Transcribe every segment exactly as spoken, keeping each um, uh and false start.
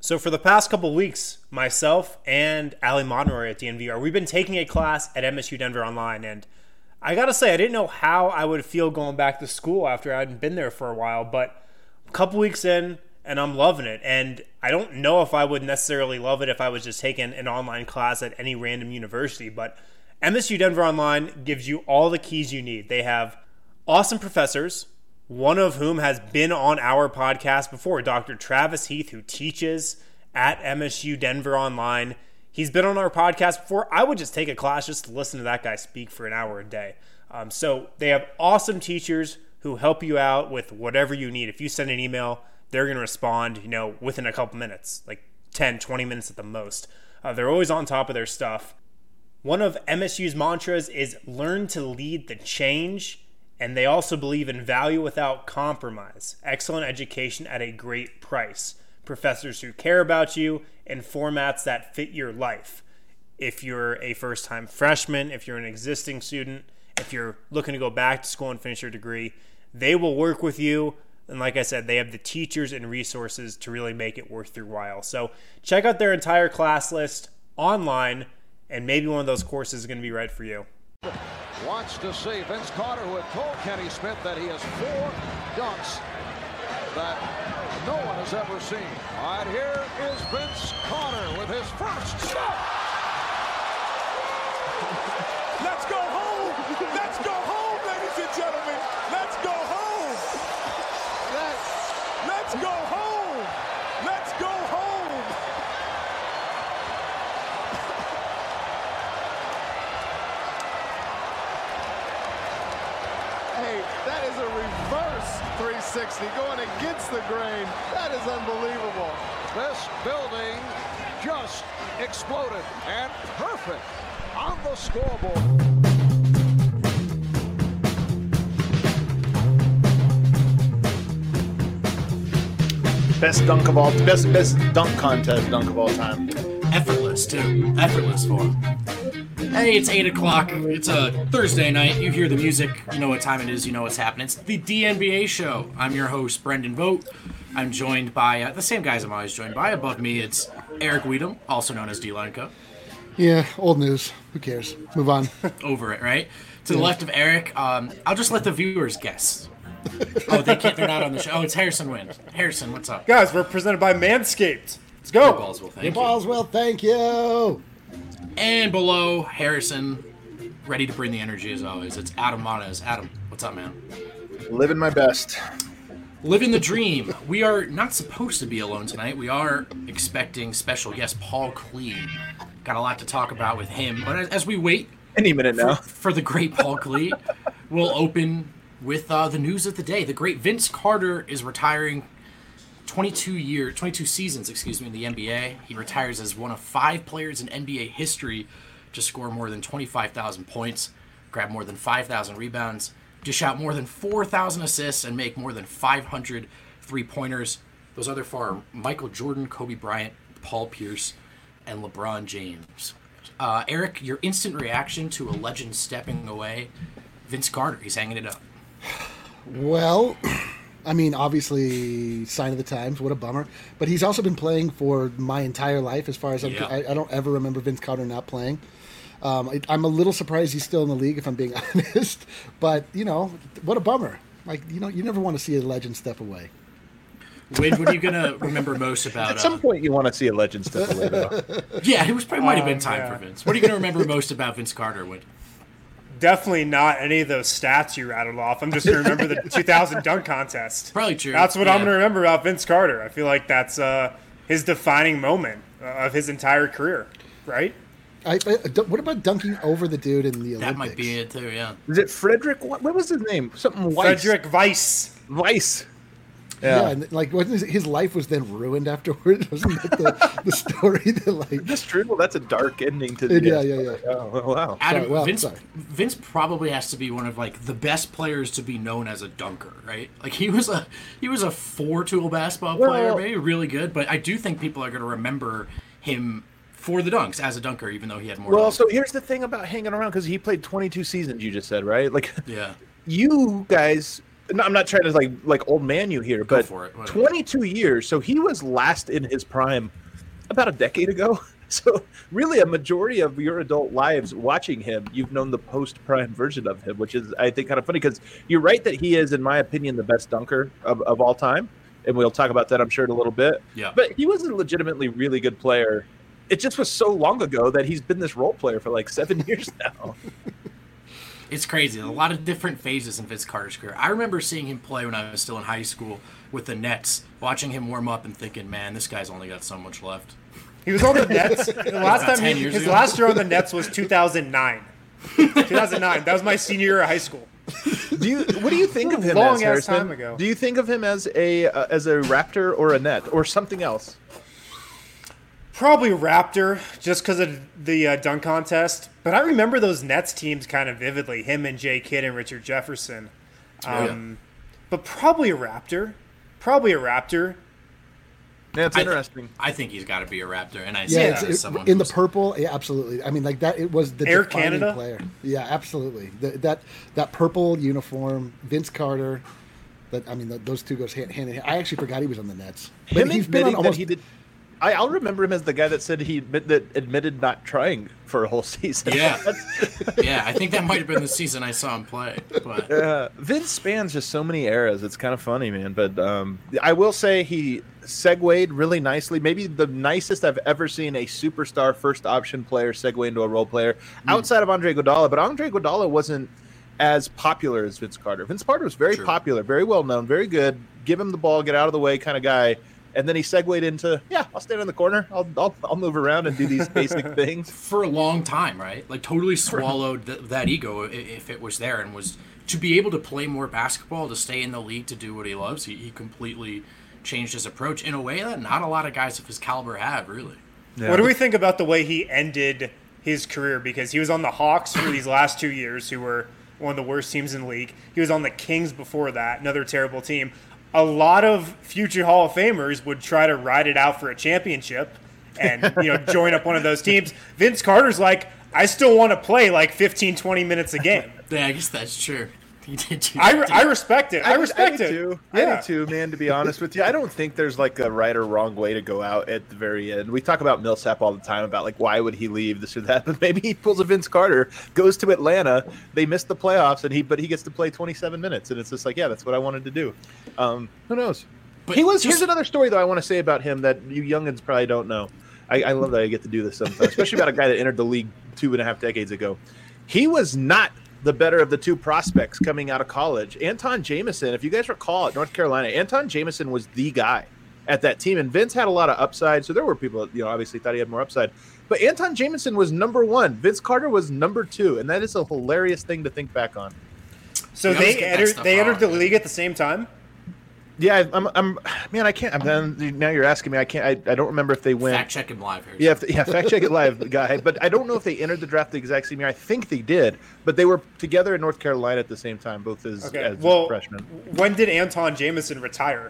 So for the past couple weeks, myself and Ali Monroy at D N V R, we've been taking a class at M S U Denver Online, and I gotta say, I didn't know how I would feel going back to school after I hadn't been there for a while, but a couple weeks in, and I'm loving it. And I don't know if I would necessarily love it if I was just taking an online class at any random university, but M S U Denver Online gives you all the keys you need. They have awesome professors, one of whom has been on our podcast before, Doctor Travis Heath, who teaches at M S U Denver Online. He's been on our podcast before. I would just take a class just to listen to that guy speak for an hour a day. Um, so they have awesome teachers who help you out with whatever you need. If you send an email, they're going to respond, you know, within a couple minutes, like ten, twenty minutes at the most. Uh, they're always on top of their stuff. One of M S U's mantras is learn to lead the change. And they also believe in value without compromise, excellent education at a great price, professors who care about you, and formats that fit your life. If you're a first-time freshman, if you're an existing student, if you're looking to go back to school and finish your degree, they will work with you. And like I said, they have the teachers and resources to really make it worth your while. So check out their entire class list online, and maybe one of those courses is going to be right for you. Wants to see Vince Carter, who had told Kenny Smith that he has four dunks that no one has ever seen. All right, here is Vince Carter with his first shot. Let's go home. Let's go home, ladies and gentlemen. Let's go home. Let's, let's go home. Let's go home. Hey, that is a reverse three sixty going against the grain. That is unbelievable. This building just exploded, and perfect on the scoreboard. Best dunk of all, best best dunk contest dunk of all time. Effortless too, effortless for him. Hey, it's eight o'clock. It's a Thursday night. You hear the music. You know what time it is. You know what's happening. It's the D N B A show. I'm your host, Brendan Vogt. I'm joined by uh, the same guys I'm always joined by. Above me, it's Eric Weedham, also known as D-Lenko. Yeah, old news. Who cares? Move on. Over it, right? To the left of Eric, um, I'll just let the viewers guess. Oh, they can't. They're not on the show. Oh, it's Harrison Wind. Harrison, what's up? Guys, we're presented by Manscaped. Let's go. Hey, Ballswell, thank Hey, you. Ballswell, thank you. And below Harrison, ready to bring the energy as always, it's Adam Monez. Adam, what's up, man? Living my best. Living the dream. We are not supposed to be alone tonight. We are expecting special guest Paul Klee. Got a lot to talk about with him. But as, as we wait Any minute now. for, for the great Paul Klee, we'll open with uh, the news of the day. The great Vince Carter is retiring twenty-two year, twenty-two seasons, excuse me, in the N B A. He retires as one of five players in N B A history to score more than twenty-five thousand points, grab more than five thousand rebounds, dish out more than four thousand assists, and make more than five hundred three-pointers. Those other four are Michael Jordan, Kobe Bryant, Paul Pierce, and LeBron James. Uh, Eric, your instant reaction to a legend stepping away, Vince Carter, he's hanging it up. Well, I mean, obviously, sign of the times. What a bummer. But he's also been playing for my entire life, as far as I'm. Yeah. I, I don't ever remember Vince Carter not playing. Um, I, I'm a little surprised he's still in the league, if I'm being honest. But you know, what a bummer. Like you know, you never want to see a legend step away. Wade, what are you gonna remember most about? At some uh, point, you want to see a legend step away, though. Yeah, it was probably might have been Um, time yeah. for Vince. What are you gonna remember most about Vince Carter, Wade? Definitely not any of those stats you rattled off. I'm just going to remember the two thousand dunk contest. Probably true. That's what Yeah. I'm going to remember about Vince Carter. I feel like that's uh, his defining moment uh, of his entire career, right? I, I, what about dunking over the dude in the Olympics? That might be it too. Yeah. Is it Frederick? What, what was his name? Something Weiss. Frederick Weiss. Weiss. Yeah, Yeah. and like wasn't his, his life was then ruined afterwards? Wasn't that the, the story that like? That's true. Well, that's a dark ending to the. Yeah, yeah, yeah. Oh, wow. Adam, Sorry, well, Vince, sorry. Vince probably has to be one of like the best players to be known as a dunker, right? Like he was a he was a four-tool basketball player, Well- maybe really good, but I do think people are going to remember him for the dunks as a dunker, even though he had more. Well, dunks. so here's the thing about hanging around, because he played twenty-two seasons, you just said, right? Like, yeah, you guys no, I'm not trying to like like old man you here, Go but for it. twenty-two years. So he was last in his prime about a decade ago. So really, a majority of your adult lives watching him, you've known the post-prime version of him, which is, I think, kind of funny because you're right that he is, in my opinion, the best dunker of, of all time. And we'll talk about that, I'm sure, in a little bit. Yeah. But he was a legitimately really good player. It just was so long ago that he's been this role player for like seven years now. It's crazy. A lot of different phases in Vince Carter's career. I remember seeing him play when I was still in high school with the Nets, watching him warm up and thinking, man, this guy's only got so much left. He was on the Nets. The last About time ten he, years his ago. last year on the Nets was two thousand nine. two thousand nine. That was my senior year of high school. Do you? What do you think of him Long as, ass Harrison? time ago. Do you think of him as a uh, as a Raptor or a Net or something else? Probably Raptor, just because of the uh, dunk contest. But I remember those Nets teams kind of vividly. Him and Jay Kidd and Richard Jefferson. Um, but probably a Raptor. Probably a Raptor. Yeah, it's I- interesting. I think he's got to be a Raptor, and I Yeah, say it's, that as it, someone in the who's- purple. Yeah, absolutely. I mean, like that. It was the Air defining Canada? player. Yeah, absolutely. The, that that purple uniform, Vince Carter. That I mean, th those two goes hand, hand in hand. I actually forgot he was on the Nets. But Him he's been on admitting almost. that he did. I, I'll remember him as the guy that said he admit, that admitted not trying for a whole season. Yeah. yeah, I think that might have been the season I saw him play. But Uh, Vince spans just so many eras. It's kind of funny, man. But um, I will say he segued really nicely. Maybe the nicest I've ever seen a superstar first option player segue into a role player outside of Andre Iguodala. But Andre Iguodala wasn't as popular as Vince Carter. Vince Carter was very True. popular, very well known, very good. Give him the ball, get out of the way kind of guy. And then he segued into, yeah, I'll stand in the corner. I'll I'll, I'll move around and do these basic things. for a long time, right? Like totally swallowed th- that ego i- if it was there, and was to be able to play more basketball, to stay in the league, to do what he loves. He, he completely changed his approach in a way that not a lot of guys of his caliber have, really. What do we think about the way he ended his career? Because he was on the Hawks for these last two years, who were one of the worst teams in the league. He was on the Kings before that, another terrible team. A lot of future Hall of Famers would try to ride it out for a championship and, you know, join up one of those teams. Vince Carter's like, I still want to play like fifteen, twenty minutes a game. Yeah, I guess that's true. He did do I, that, re- didn't I he? respect it. I, respect do it. Too. Yeah. I do too, man, to be honest with you. I don't think there's like a right or wrong way to go out at the very end. We talk about Millsap all the time about like why would he leave this or that, but maybe he pulls a Vince Carter, goes to Atlanta, they miss the playoffs, and he but he gets to play twenty-seven minutes, and it's just like, yeah, that's what I wanted to do. Um, who knows? But he was. just- Here's another story though I want to say about him that you youngins probably don't know. I, I love that I get to do this sometimes, especially about a guy that entered the league two and a half decades ago. He was not the better of the two prospects coming out of college. Anton Jameson, if you guys recall at North Carolina, Anton Jameson was the guy at that team. And Vince had a lot of upside. So there were people that, you know, obviously thought he had more upside. But Anton Jameson was number one. Vince Carter was number two. And that is a hilarious thing to think back on. So You always they get that entered. stuff They entered the wrong. league at the same time. Yeah, I'm, I'm man, I can't. I'm then now you're asking me. I can't. I, I don't remember if they went. Fact check him live here. Yeah, if, yeah, fact check it live, guy. But I don't know if they entered the draft the exact same year. I think they did, but they were together in North Carolina at the same time, both as, Okay. as Well, freshmen. when did Anton Jameson retire?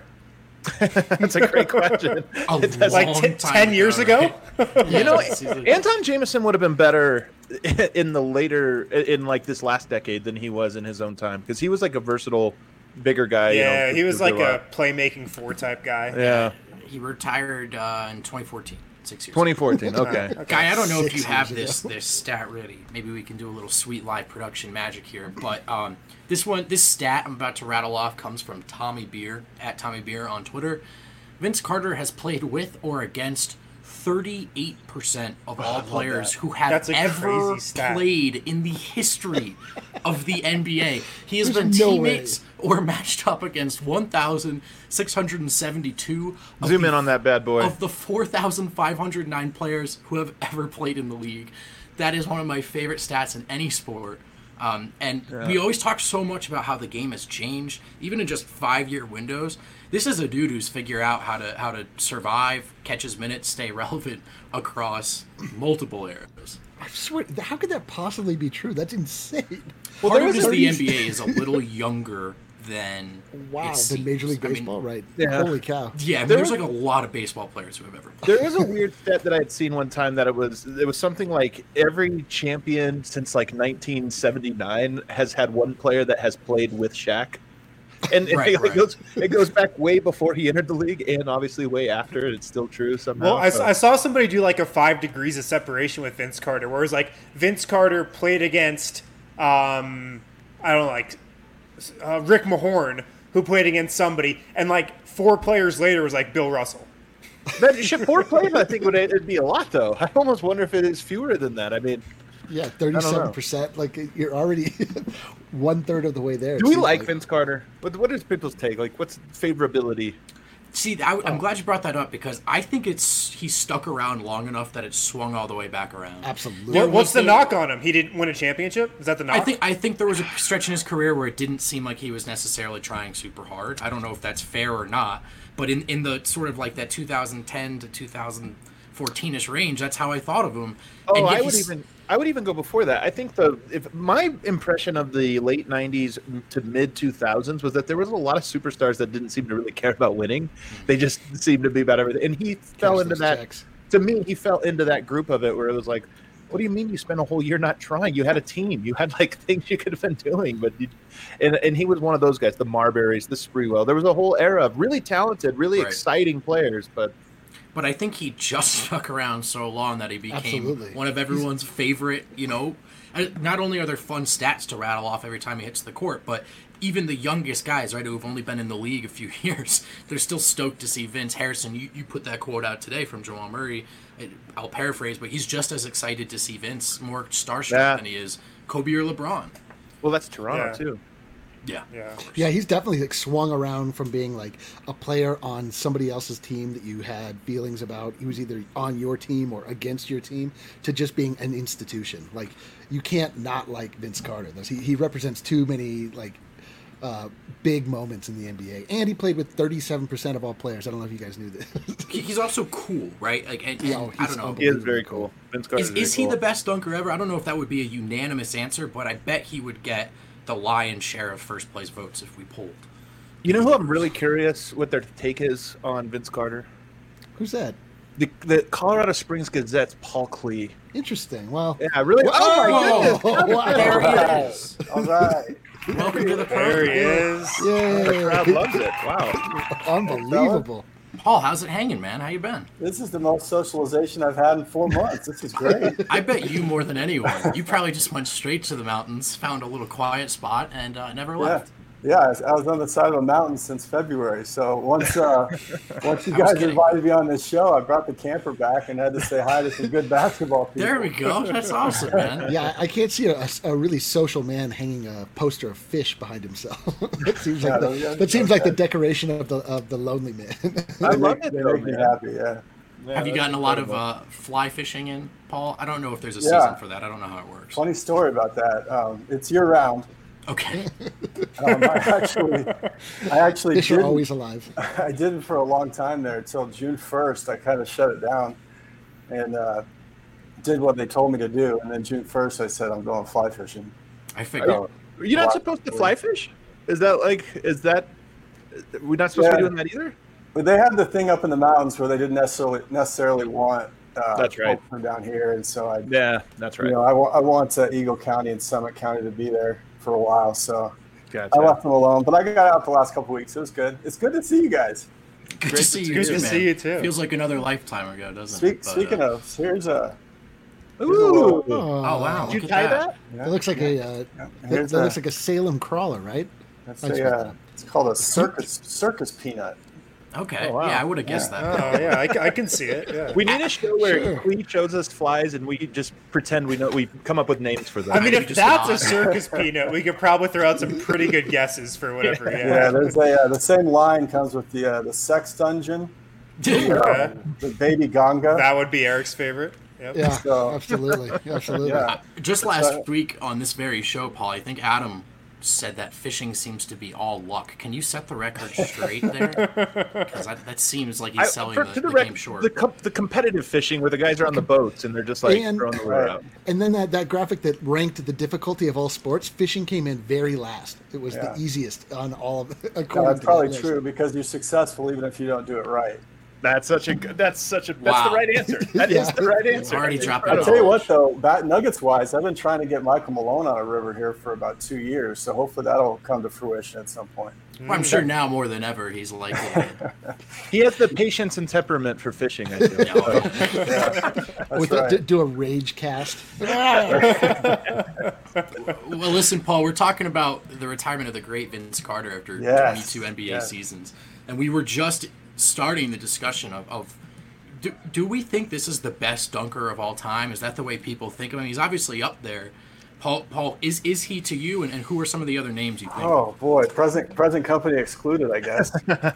That's a great question. A Like long t- time ten years ago. right? You know, Yeah, he's like- Anton Jameson would have been better in the later, in like this last decade than he was in his own time because he was like a versatile, bigger guy. you Yeah, know, he was with like lot. a playmaking four type guy. Yeah, He retired uh, in twenty fourteen, six years. twenty fourteen. Okay. Guy, I don't know if Six you have years this this stat ready. Maybe we can do a little sweet live production magic here. But um, this one, this stat I'm about to rattle off comes from Tommy Beer at Tommy Beer on Twitter. Vince Carter has played with or against thirty-eight percent of all players who have That's a ever crazy stat. played in the history of the N B A. He has There's been no teammates or matched up against one thousand six hundred seventy-two. of Zoom the in on that bad boy. of the four thousand five hundred nine players who have ever played in the league. That is one of my favorite stats in any sport. Um, and we always talk so much about how the game has changed, even in just five-year windows. This is a dude who's figured out how to how to survive, catch his minutes, stay relevant across multiple eras. I swear, how could that possibly be true? That's insane. Well, Part there of was it is a the reason- N B A is a little younger than Wow, it than Major seems. League I mean, Baseball, right? Yeah. Holy cow. Yeah, I mean, There there's was- like a lot of baseball players who have ever played. There was a weird stat that I had seen one time that it was it was something like every champion since like nineteen seventy-nine has had one player that has played with Shaq. And Right, it, right. goes it goes back way before he entered the league, and obviously way after. It's still true somehow. Well, I, so. I saw somebody do like a five degrees of separation with Vince Carter, where it was like Vince Carter played against, um, I don't know, like uh, Rick Mahorn, who played against somebody, and like four players later was like Bill Russell. That should four players, I think would it'd be a lot though. I almost wonder if it is fewer than that. I mean, Yeah, thirty-seven percent. Like you're already one third of the way there. do we like Vince Carter? What what is people's take? Like, what's favorability? See, I, I'm glad you brought that up because I think it's he stuck around long enough that it swung all the way back around. Absolutely. What, what's was the the- knock on him? He didn't win a championship? Is that the knock? I think I think there was a stretch in his career where it didn't seem like he was necessarily trying super hard. I don't know if that's fair or not, but in, in the sort of like that two thousand ten to two thousand fourteen-ish range, that's how I thought of him. Oh, And yet I would he's- even I would even go before that. I think the if my impression of the late nineties to mid two thousands was that there was a lot of superstars that didn't seem to really care about winning. They just seemed to be about everything. And he fell into those that. checks. To me, he fell into that group of it where it was like, what do you mean you spent a whole year not trying? You had a team. You had like things you could have been doing, but you, and and he was one of those guys. The Marburys, the Sprewell. There was a whole era of really talented, really Right. exciting players, but. But I think he just stuck around so long that he became Absolutely. one of everyone's favorite, you know. And not only are there fun stats to rattle off every time he hits the court, but even the youngest guys, right, who have only been in the league a few years, they're still stoked to see Vince. Harrison, you, you put that quote out today from Jamal Murray. It, I'll paraphrase, but he's just as excited to see Vince, more starstruck Yeah. than he is Kobe or LeBron. Well, that's Toronto Yeah. too. Yeah. Yeah. Yeah, he's definitely like swung around from being like a player on somebody else's team that you had feelings about. He was either on your team or against your team to just being an institution. Like you can't not like Vince Carter. Those he, he represents too many like uh, big moments in the N B A, and he played with thirty-seven percent of all players. I don't know if you guys knew this. He- He's also cool, right? Like, and, Yeah, and oh, I he's don't know. He is very cool. Vince Carter Is, very is he cool. the best dunker ever? I don't know if that would be a unanimous answer, but I bet he would get the lion's share of first place votes if we polled. You know who I'm really curious what their take is on Vince Carter? Who's that? The the Colorado Springs Gazette's Paul Klee. Interesting. Well, Yeah, really. Oh my Whoa. goodness! wow. There he is. All right. Welcome to the There he program. is. The crowd Yay. loves it. Wow. Unbelievable. Paul, how's it hanging, man? How you been? This is the most socialization I've had in four months. This is great. I bet you more than anyone. You probably just went straight to the mountains, found a little quiet spot, and uh, never Yeah, left. yeah. I was- I was on the side of a mountain since February. So once, uh, once you I was guys kidding. invited me on this show, I brought the camper back and had to say hi to some good basketball people. There we go. That's awesome, man. Yeah, I can't see a, a really social man hanging a poster of fish behind himself. that seems like Yeah, the, yeah, that seems like the okay. decoration of the of the lonely man. I They love make, it they though, make me man. happy. Yeah. Yeah, Have you that's gotten a lot of incredible. uh, fly fishing in, Paul? I don't know if there's a Yeah. season for that. I don't know how it works. Funny story about that. Um, it's year round. Okay. Um, I actually, I actually Fish are didn't- always alive. I did it for a long time there until June first. I kind of shut it down and uh, did what they told me to do. And then June first, I said, I'm going fly fishing. I figured. So, Are you not What? supposed to fly fish? Is that like? Is that? We're not supposed to be Yeah. doing that either. but they had the thing up in the mountains where they didn't necessarily necessarily want uh, That's right. folks from down here. And so I, Yeah, that's right. you know, I, wa- I want uh, Eagle County and Summit County to be there for a while. So Gotcha. I left them alone, but I got out the last couple weeks. It was good. It's good to see you guys. Good Great to see to- you good too, to man. see you, too. Feels like another lifetime ago, doesn't Speak, it? But, speaking uh, of, here's a, Ooh. Oh, Oh, wow. Did you look tie at that? yeah, That looks like a uh, that, here's that a- looks like a Salem crawler, right? that's I just a, read uh, that. it's called a circus circus peanut. Okay. Oh, wow. Yeah, I would have guessed Yeah. that. Oh, yeah, I, c- I can see it. Yeah. We need a show where Sure. Clee shows us flies and we just pretend we know. We come up with names for them. I mean, You if just that's nod. a circus peanut, we could probably throw out some pretty good guesses for whatever. Yeah, Yeah. there's a uh, the same line comes with the uh, the sex dungeon, Okay. the baby ganga. That would be Eric's favorite. Yep. Yeah, So- absolutely, absolutely. Yeah, Just last uh, week on this very show, Paul, I think Adam said that fishing seems to be all luck. Can you set the record straight there? Because that, that seems like he's I- selling for- the, to the, the, rec- game short. the, com- the competitive fishing where the guys are on the boats and they're just like And- throwing the lure out. And then that, that graphic that ranked the difficulty of all sports, fishing came in very last. It was Yeah. the easiest on all of no, according that's to probably that list. true because you're successful even if you don't do it right. That's such a good. That's such a. That's Wow. the right answer. That is Yeah. the right answer. Already That's dropped I'll it tell you all. what, though, bat Nuggets wise, I've been trying to get Michael Malone on a river here for about two years, so hopefully that'll come to fruition at some point. Well, I'm sure now more than ever he's likely. He has the patience and temperament for fishing. I feel. Yeah, well, Yeah, that's With right. a, do a rage cast. well, listen, Paul, we're talking about the retirement of the great Vince Carter after Yes. twenty-two N B A Yes. seasons, and we were just starting the discussion of. of do, do we think this is the best dunker of all time? Is that the way people think of him? He's obviously up there. Paul, Paul, is is he to you? And, and who are some of the other names you think? Oh boy, present present company excluded, I guess.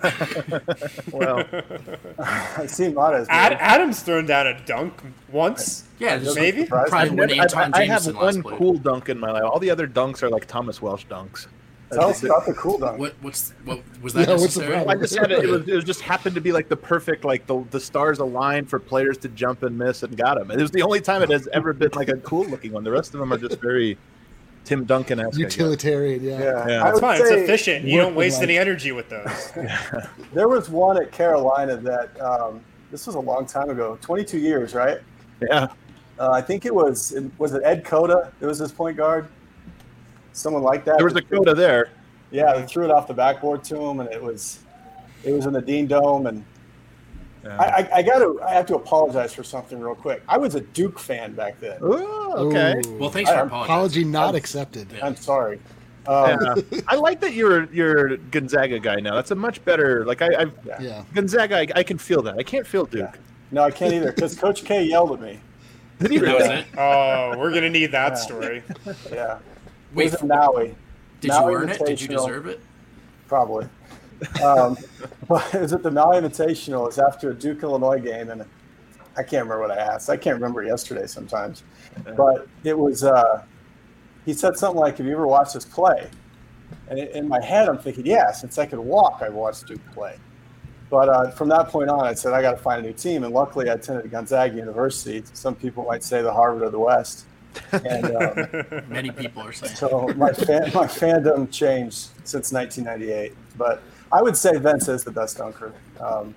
Well, I see Mata's. Ad, Adam's thrown down a dunk once. Yeah, just Maybe? Surprised. probably I've when never- Anton I, I have Jameson last one played. cool dunk in my life. All the other dunks are like Thomas Welsh dunks. Tell us about the cool dunk. What what's what was that Yeah, what's the necessary? problem? I just had it. It, was, it was just happened to be like the perfect, like the the stars aligned for players to jump and miss and got him. It was the only time it has ever been like a cool looking one. The rest of them are just very Tim Duncan-esque. Utilitarian, yeah. Yeah, Yeah. I That's would fine. It's say efficient. You don't working waste like- any energy with those. there was one at Carolina that um, this was a long time ago, twenty-two years, right? Yeah. Uh, I think it was was it Ed Cota? It was his point guard. Someone like that. There was a coda there. Yeah, they threw it off the backboard to him, and it was it was in the Dean Dome. And Yeah. I, I, I got to I have to apologize for something real quick. I was a Duke fan back then. Ooh, okay. Ooh. Well, thanks for I- apologizing. Apology not accepted. Yeah. I'm sorry. Um, Yeah. I like that you're you're a Gonzaga guy now. That's a much better. Like I, I Yeah. Gonzaga, I, I can feel that. I can't feel Duke. Yeah. No, I can't either because Coach K yelled at me. Did he That was really? it. Oh, we're gonna need that Yeah. story. Yeah. Wait, it was in Maui. did Maui you earn it? Did you Invitational. deserve it? Probably. Um, but it was at the Maui Invitational. It was after a Duke Illinois game, and I can't remember what I asked. I can't remember yesterday sometimes. But it was, uh, he said something like, have you ever watched us play? And in my head, I'm thinking, yeah, since I could walk, I watched Duke play. But uh, from that point on, I said, I got to find a new team. And luckily, I attended Gonzaga University. Some people might say the Harvard of the West. And um, Many people are saying. so my fan, my fandom changed since nineteen ninety-eight. But I would say Vince is the best dunker. Um,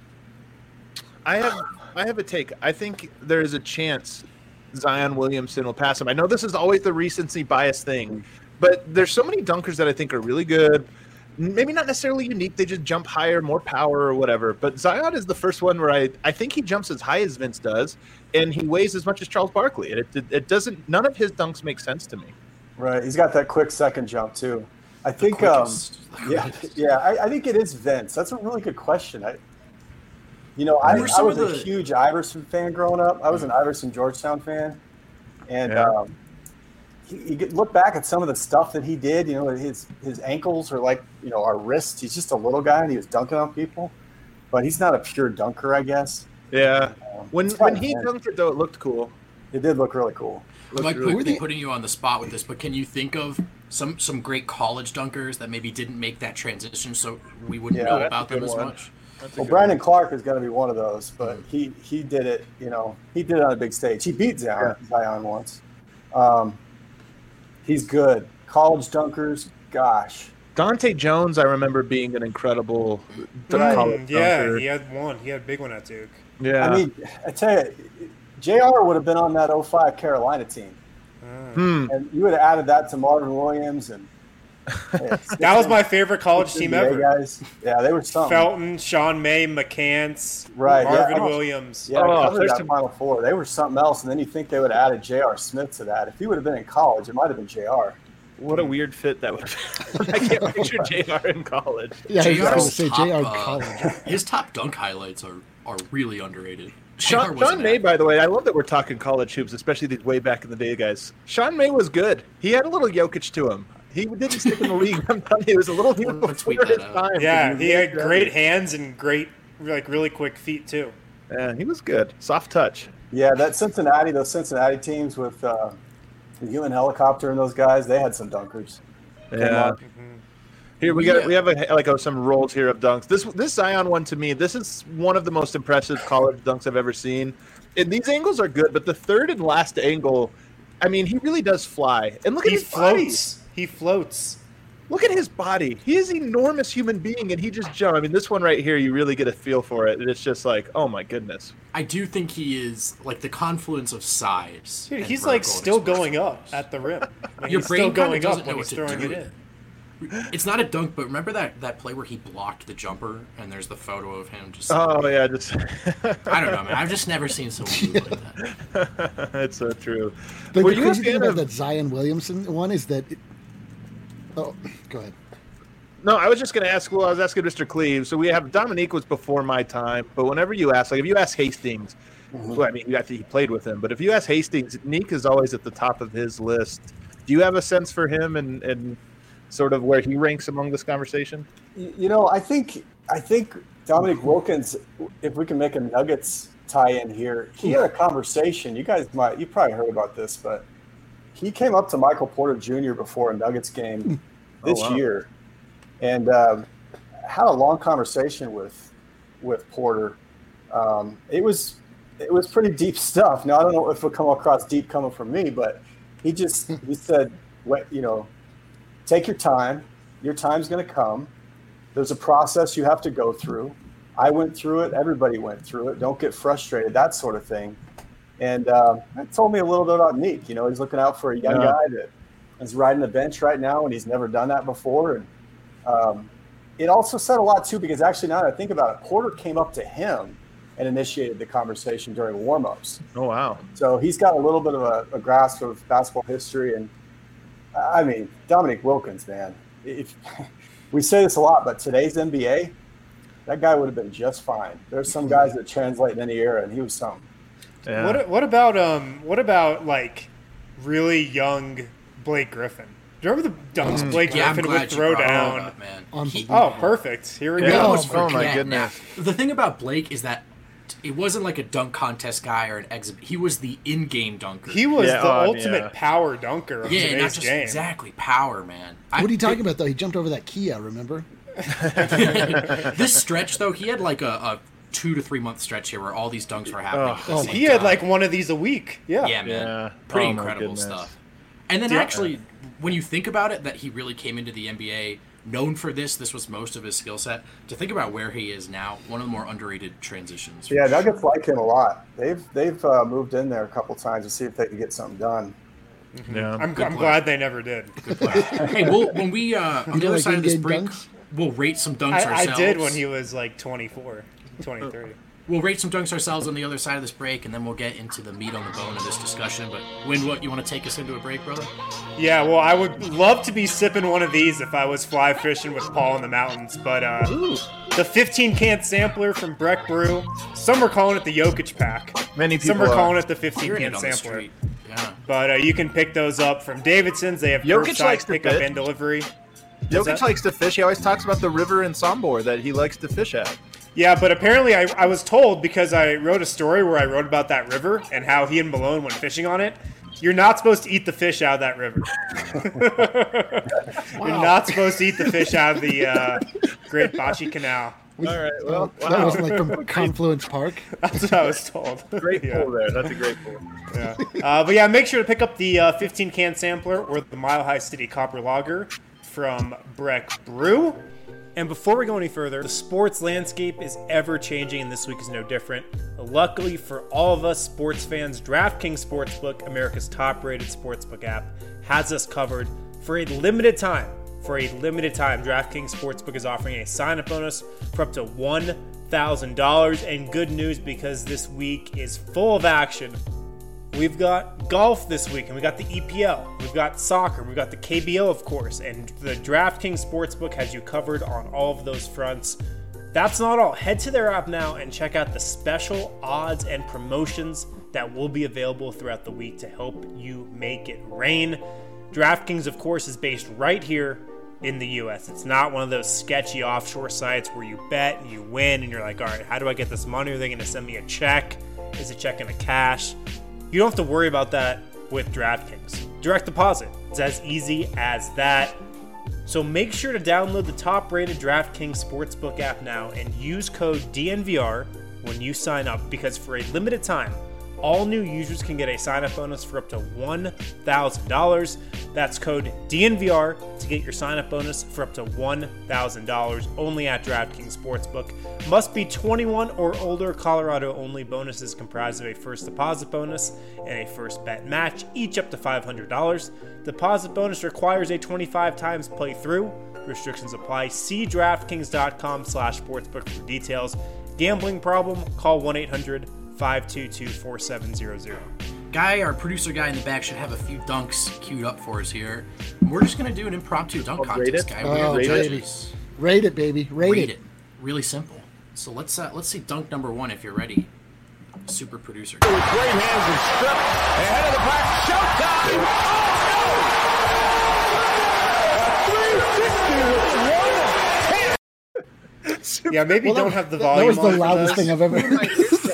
I have I have a take. I think there is a chance Zion Williamson will pass him. I know this is always the recency bias thing, but there's so many dunkers that I think are really good. Maybe not necessarily unique. They just jump higher, more power or whatever. But Zion is the first one where I, I think he jumps as high as Vince does, and he weighs as much as Charles Barkley. And it, it, it doesn't. None of his dunks make sense to me. right. He's got that quick second jump, too. I think, The um, quickest. yeah, yeah I, I think it is Vince. That's a really good question. I, you know, I, Who are I some was of a the- huge Iverson fan growing up. I was an Iverson Georgetown fan. And Yeah. um, he, you could look back at some of the stuff that he did. You know, his his ankles are like, you know, our wrists. He's just a little guy, and he was dunking on people. But he's not a pure dunker, I guess. Yeah. Um, When it's when kinda he fun. dunked it though, it looked cool. It did look really cool. I'm like really quickly cool. putting you on the spot with this, but can you think of some some great college dunkers that maybe didn't make that transition, so we wouldn't Yeah, know that's about a them good as one. much? That's a Well, good Brandon one. Clark is going to be one of those, but he he did it. You know, he did it on a big stage. He beat Zion, Zion once. Um, he's good. College dunkers, gosh. Dante Jones, I remember being an incredible Mm, college yeah, dunker. he had one. He had a big one at Duke. Yeah. I mean, I tell you, J R would have been on that oh five Carolina team, Hmm. and you would have added that to Marvin Williams and. That was my favorite college team N B A ever. Guys. Yeah, they were something. Felton, Sean May, McCants, Right, yeah, Marvin I don't- Williams. Yeah, Oh, I covered there's that some- Final Four. They were something else, and then you think they would have added J R. Smith to that. If he would have been in college, it might have been J R. What a weird fit that would have been. I can't picture J R in college. Yeah, I was going to JR's say top, J R uh, College. His top dunk highlights are, are really underrated. J R Sean, wasn't Sean May, that- by the way, I love that we're talking college hoops, especially these way back in the day guys. Sean May was good. He had a little Jokic to him. He didn't stick in the league. I'm telling you, he was a little he was We'll tweet before his that out. time. Yeah, he had was great hands and great, like really quick feet too. Yeah, he was good. Soft touch. Yeah, that Cincinnati, those Cincinnati teams with uh, the human helicopter and those guys, they had some dunkers. Came Yeah. on. Here we Yeah. got we have a, like oh, some rolls here of dunks. This this Zion one to me, this is one of the most impressive college dunks I've ever seen. And these angles are good, but the third and last angle, I mean, he really does fly. And look at He his body. floats. He floats. Look at his body. He is an enormous human being, and he just jumped. I mean, this one right here, you really get a feel for it. And it's just like, oh my goodness. I do think he is like the confluence of size. Dude, and he's like vertical still explosiveness. going up at the rim. Like, Your he's brain still kinda going doesn't up know when what he's to throwing do it with in. It's not a dunk, but remember that, that play where he blocked the jumper, and there's the photo of him just. Oh yeah, just. I don't know, man. I've just never seen someone move like that. That's so true. The, Were the you a crazy thing fan about of- that Zion Williamson one is that. It, oh, go ahead. No, I was just going to ask. Well, I was asking Mister Cleve. So we have Dominique was before my time, but whenever you ask, like if you ask Hastings, Mm-hmm. well, I mean, you actually he played with him, but if you ask Hastings, Neek is always at the top of his list. Do you have a sense for him and and sort of where he ranks among this conversation? You you know, I think I think Dominic Wilkins, if we can make a Nuggets tie-in here, he had a conversation. You guys might, you probably heard about this, but he came up to Michael Porter Junior before a Nuggets game this Oh, wow. year, and um, had a long conversation with with Porter. Um, it was it was pretty deep stuff. Now I don't know if it'll come across deep coming from me, but he just he said, "What you know, take your time. Your time's going to come. There's a process you have to go through. I went through it. Everybody went through it. Don't get frustrated. That sort of thing." And uh, that told me a little bit about Neek. You know, he's looking out for a young Yeah. guy that is riding the bench right now, and he's never done that before. And um, it also said a lot too, because actually now that I think about it, Porter came up to him and initiated the conversation during warmups. Oh wow! So he's got a little bit of a, a grasp of basketball history. And I mean, Dominic Wilkins, man, if we say this a lot, but today's N B A, that guy would have been just fine. There's some guys that translate in any era, and he was something. Yeah. What what about um what about like really young Blake Griffin? Do you remember the dunks Blake Yeah, I'm Griffin glad would you throw brought it down? up, man. Unbelievable. Oh, perfect. Here we Yeah. go. We almost Oh, my forget goodness. now. The thing about Blake is that it wasn't like a dunk contest guy or an exhibit. He was the in-game dunker. He was Yeah, the uh, ultimate yeah. power dunker of yeah, not today's just game. exactly power, man. I- What are you talking about, though? He jumped over that Kia, remember? This stretch, though, he had like a, a two to three month stretch here where all these dunks were happening. at the Oh, same He had time. like one of these a week. Yeah. Yeah, man. Yeah. Pretty Oh, my incredible goodness. stuff. And then Yeah. actually, when you think about it, that he really came into the N B A known for this, this was most of his skill set. To think about where he is now, one of the more underrated transitions. Yeah, Nuggets like him a lot. They've they've uh, moved in there a couple times to see if they could get something done. Yeah. I'm, Good I'm play. glad they never did. Hey, we'll, when we, uh, on the do other like side of this in-game break, dunks? we'll rate some dunks I, ourselves. I did when he was like twenty-four, twenty-three. We'll rate some dunks ourselves on the other side of this break, and then we'll get into the meat on the bone of this discussion. But, Win, what, you want to take us into a break, brother? Yeah, well, I would love to be sipping one of these if I was fly fishing with Paul in the mountains. But uh, the fifteen can sampler from Breck Brew, some are calling it the Jokic pack. Many Some people are are. calling it the fifteen Hearing can it on the sampler. street. Yeah. But uh, you can pick those up from Davidson's. They have Jokic likes curbside to pickup fit. and delivery. Jokic that? likes to fish. He always talks about the river in Sombor that he likes to fish at. Yeah, but apparently I, I was told, because I wrote a story where I wrote about that river and how he and Malone went fishing on it, you're not supposed to eat the fish out of that river. You're not supposed to eat the fish out of the uh, Great Bachi Canal. All right. Well, That wow. wasn't like from Confluence Park. That's what I was told. Great Yeah. pull there. That's a great pull. Yeah. Uh, but yeah, make sure to pick up the uh, fifteen can sampler or the Mile High City Copper Lager from Breck Brew. And before we go any further, the sports landscape is ever changing, and this week is no different. Luckily for all of us sports fans, DraftKings Sportsbook, America's top-rated sportsbook app, has us covered for a limited time. For a limited time, DraftKings Sportsbook is offering a sign-up bonus for up to one thousand dollars. And good news, because this week is full of action. We've got golf this week, and we got the E P L. We've got soccer. We've got the K B O, of course. And the DraftKings Sportsbook has you covered on all of those fronts. That's not all. Head to their app now and check out the special odds and promotions that will be available throughout the week to help you make it rain. DraftKings, of course, is based right here in the U S. It's not one of those sketchy offshore sites where you bet and you win and you're like, all right, how do I get this money? Are they going to send me a check? Is a check in a cash? You don't have to worry about that with DraftKings. Direct deposit. It's as easy as that. So make sure to download the top-rated DraftKings Sportsbook app now and use code D N V R when you sign up, because for a limited time, All new users can get a sign-up bonus for up to one thousand dollars. That's code D N V R to get your sign-up bonus for up to one thousand dollars only at DraftKings Sportsbook. Must be twenty-one or older. Colorado only. Bonuses comprised of a first deposit bonus and a first bet match, each up to five hundred dollars. Deposit bonus requires a twenty-five times playthrough. Restrictions apply. See DraftKings.com slash sportsbook for details. Gambling problem? Call one eight hundred five two two four seven zero zero. Guy, our producer guy in the back, should have a few dunks queued up for us here. We're just going to do an impromptu dunk Oh, rate contest, it? guy. Oh, We're the rate it. judges. Rate it, baby. Rate, Rate it. it. Really simple. So let's uh, let's see dunk number one if you're ready. Super producer. With great hands and strip ahead of the back. Showtime! Oh, no! three sixty with one ten. Yeah, maybe Well, don't that, have the that volume was the on for loudest this. thing I've ever heard.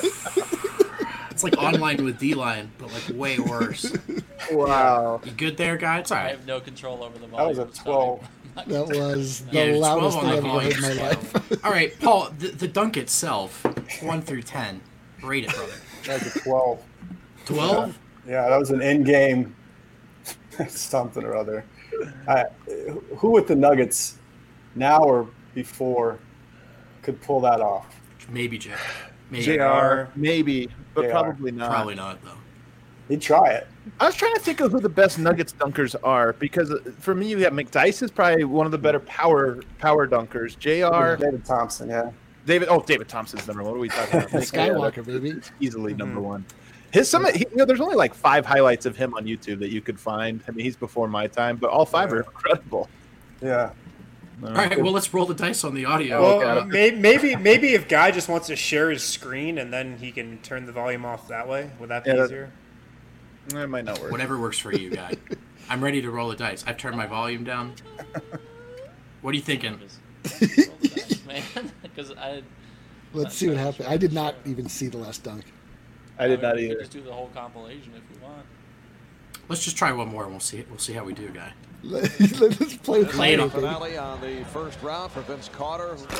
It's like online with D-line, but like way worse. Wow. You good there, guy? It's all I right. have no control over the That volume. was a It's twelve. not- That was the Yeah, loudest twelve thing on I've the ever heard in my volume life. scale. All right, Paul, the, the dunk itself, one through ten. Rate it, brother. That was a twelve. twelve? Yeah, that was an in-game something or other. I, who with the Nuggets now or before could pull that off? Maybe J. Maybe. J R, maybe, but J R. probably not. Probably not, though. He'd try it. I was trying to think of who the best Nuggets dunkers are because uh, for me, you got McDyess is probably one of the better power power dunkers. J R, David Thompson, yeah. David. Oh, David Thompson's number one. What are we talking about? Skywalker, baby. Easily number one. His some, he, you know, there's only like five highlights of him on YouTube that you could find. I mean, he's before my time, but all five are incredible. Yeah. All right, well, let's roll the dice on the audio. Well, uh, may- maybe maybe if Guy just wants to share his screen and then he can turn the volume off that way, would that be Yeah, that- easier? It might not work. Whatever works for you, guy. I'm ready to roll the dice. I've turned my volume down. What are you thinking? Just roll the dice, man. Because I. Let's see what happens. I did not even see the last dunk. I did not we could either. Just do the whole compilation if you want. Let's just try one more and we'll see. We'll see how we do, guy. Let's play with Play it fire, on. baby. Finale on the first round for Vince Carter. Oh, it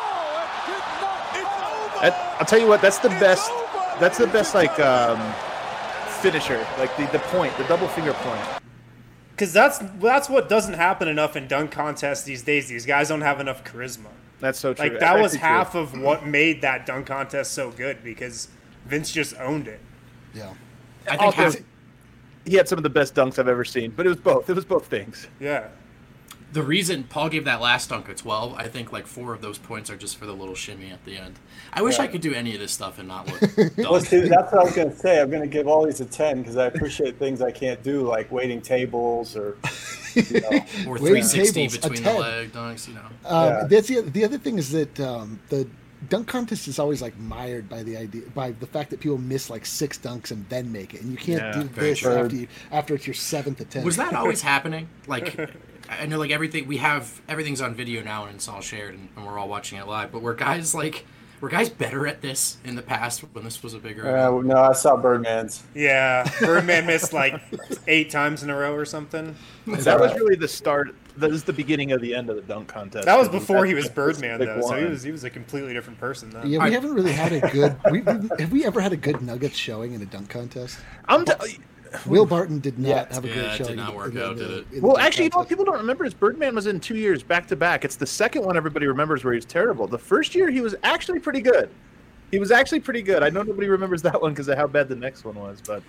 did not. It's over. That- I'll tell you what. That's the best. That's the best like um, finisher. Like the, the point, the double finger point. Because that's that's what doesn't happen enough in dunk contests these days. These guys don't have enough charisma. That's so true. Like That's that was actually half true. of what made that dunk contest so good because Vince just owned it. Yeah. I think half, Also, he had some of the best dunks I've ever seen, but it was both. It was both things. Yeah. the reason Paul gave that last dunk a twelve, I think like four of those points are just for the little shimmy at the end. I wish Yeah. I could do any of this stuff and not look Well, dumb. see, that's what I was going to say. I'm going to give all these a ten because I appreciate things I can't do, like waiting tables or, you know. Or Wait, three sixty tables, a between the ten. leg dunks, you know. Um, Yeah. That's the the other thing is that um, the dunk contest is always like mired by the idea by the fact that people miss like six dunks and then make it, and you can't Yeah, do very this true. after you after it's your seventh attempt. Was that always happening? Like, I know like everything we have, everything's on video now and it's all shared and, and we're all watching it live. But were guys like, were guys better at this in the past when this was a bigger? Uh, no, I saw Birdman's. Yeah, Birdman missed like eight times in a row or something. That was really the start. That was the beginning of the end of the dunk contest. That was before he was That's Birdman big though, so he one. was he was a completely different person then. Yeah, we I- haven't really had a good. We, have we ever had a good Nuggets showing in a dunk contest? I'm t- Will Barton did not Yeah. have a Yeah, great it did showing. not work in the- out, did it? in the well, dunk actually, you know what contest. people don't remember is Birdman was in two years back to back. It's the second one everybody remembers where he was terrible. The first year he was actually pretty good. He was actually pretty good. I know nobody remembers that one because of how bad the next one was, but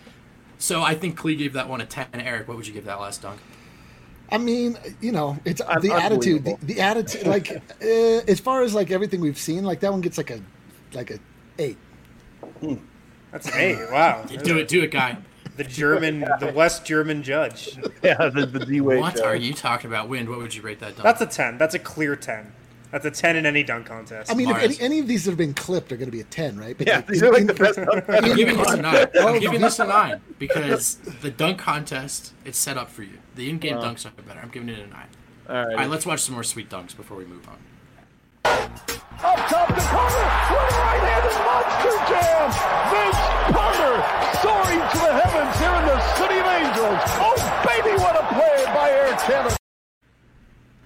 So I think Clee gave that one a ten. Eric, what would you give that last dunk? I mean, you know, it's Un- the attitude. The, unbelievable. the attitude, like uh, as far as like everything we've seen, like that one gets like a like a eight. That's me. Wow. Do it, do it, guy. The German, the West German judge. yeah, the, the D-Wade What show. are you talking about? Wind, what would you rate that dunk? That's a ten. That's a clear ten. That's a ten in any dunk contest. I mean, if Mars. any, any of these that have been clipped are going to be a ten, right? But Yeah, like, these in- are like in- the best dunk I'm contest. giving this a nine. Oh, I'm giving no. this a nine because the dunk contest, it's set up for you. The in-game dunks are better. I'm giving it a nine. All right. All right, let's watch some more sweet dunks before we move on. Up top the corner with a right-handed monster jam. Vince Carter soaring to the heavens here in the City of Angels. Oh, baby, what a play by Air Canada.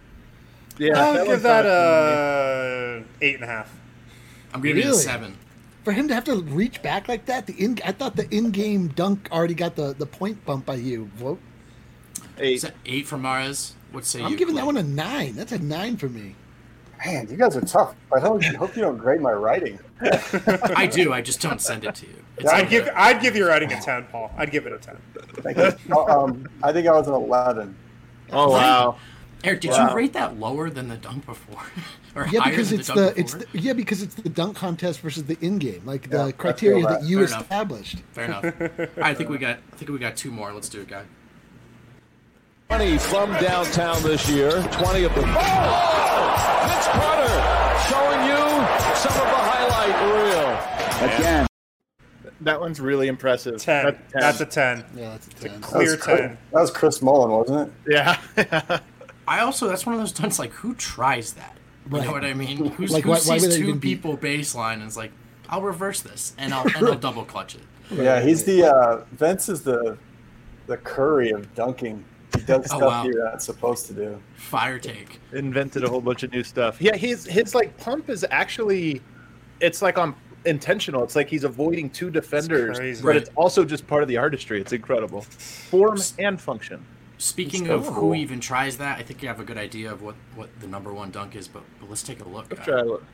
yeah, I'll that give one's that not- a eight and a half. I'm giving it a Really? seven. for him to have to reach back like that, the in I thought the in-game dunk already got the, the point bump by you. Vote. Eight. Is that eight from Mares? What say I'm you? giving that one a nine. That's a nine for me. Man, you guys are tough. I hope, hope you don't grade my writing. I do. I just don't send it to you. It's I'd give I'd give your writing a ten, Paul. I'd give it a ten. Thank you. um, I think I was an eleven. Oh wow. Eric, did wow. you rate that lower than the dunk before? or yeah, higher because than it's the, the, dunk it's before? the yeah because it's the dunk contest versus the in-game, like Yeah, the criteria that. that you Fair established. Enough. Fair enough. All right, I think we got I think we got two more. Let's do it, guy. twenty from downtown this year. twenty of them. Oh! Vince Carter showing you some of the highlight reel. Again. That one's really impressive. ten. That's a ten. That's a ten. Yeah, that's a ten. Clear that was, ten. That was Chris Mullen, wasn't it? Yeah. I also that's one of those dunks like who tries that? You Right. know what I mean? Who's, Like, who why- why sees would they two even be- people baseline and is like, I'll reverse this and I'll and I'll double clutch it. Yeah, he's the uh, Vince is the the Curry of dunking. He does Oh, stuff wow. you're not supposed to do. Fire take. Invented a whole bunch of new stuff. Yeah, his his like pump is actually, it's like on intentional. It's like he's avoiding two defenders, crazy. but Right. it's also just part of the artistry. It's incredible, form and function. Speaking so of cool. who even tries that, I think you have a good idea of what, what the number one dunk is, but, but let's take a look. Let's guy. try it.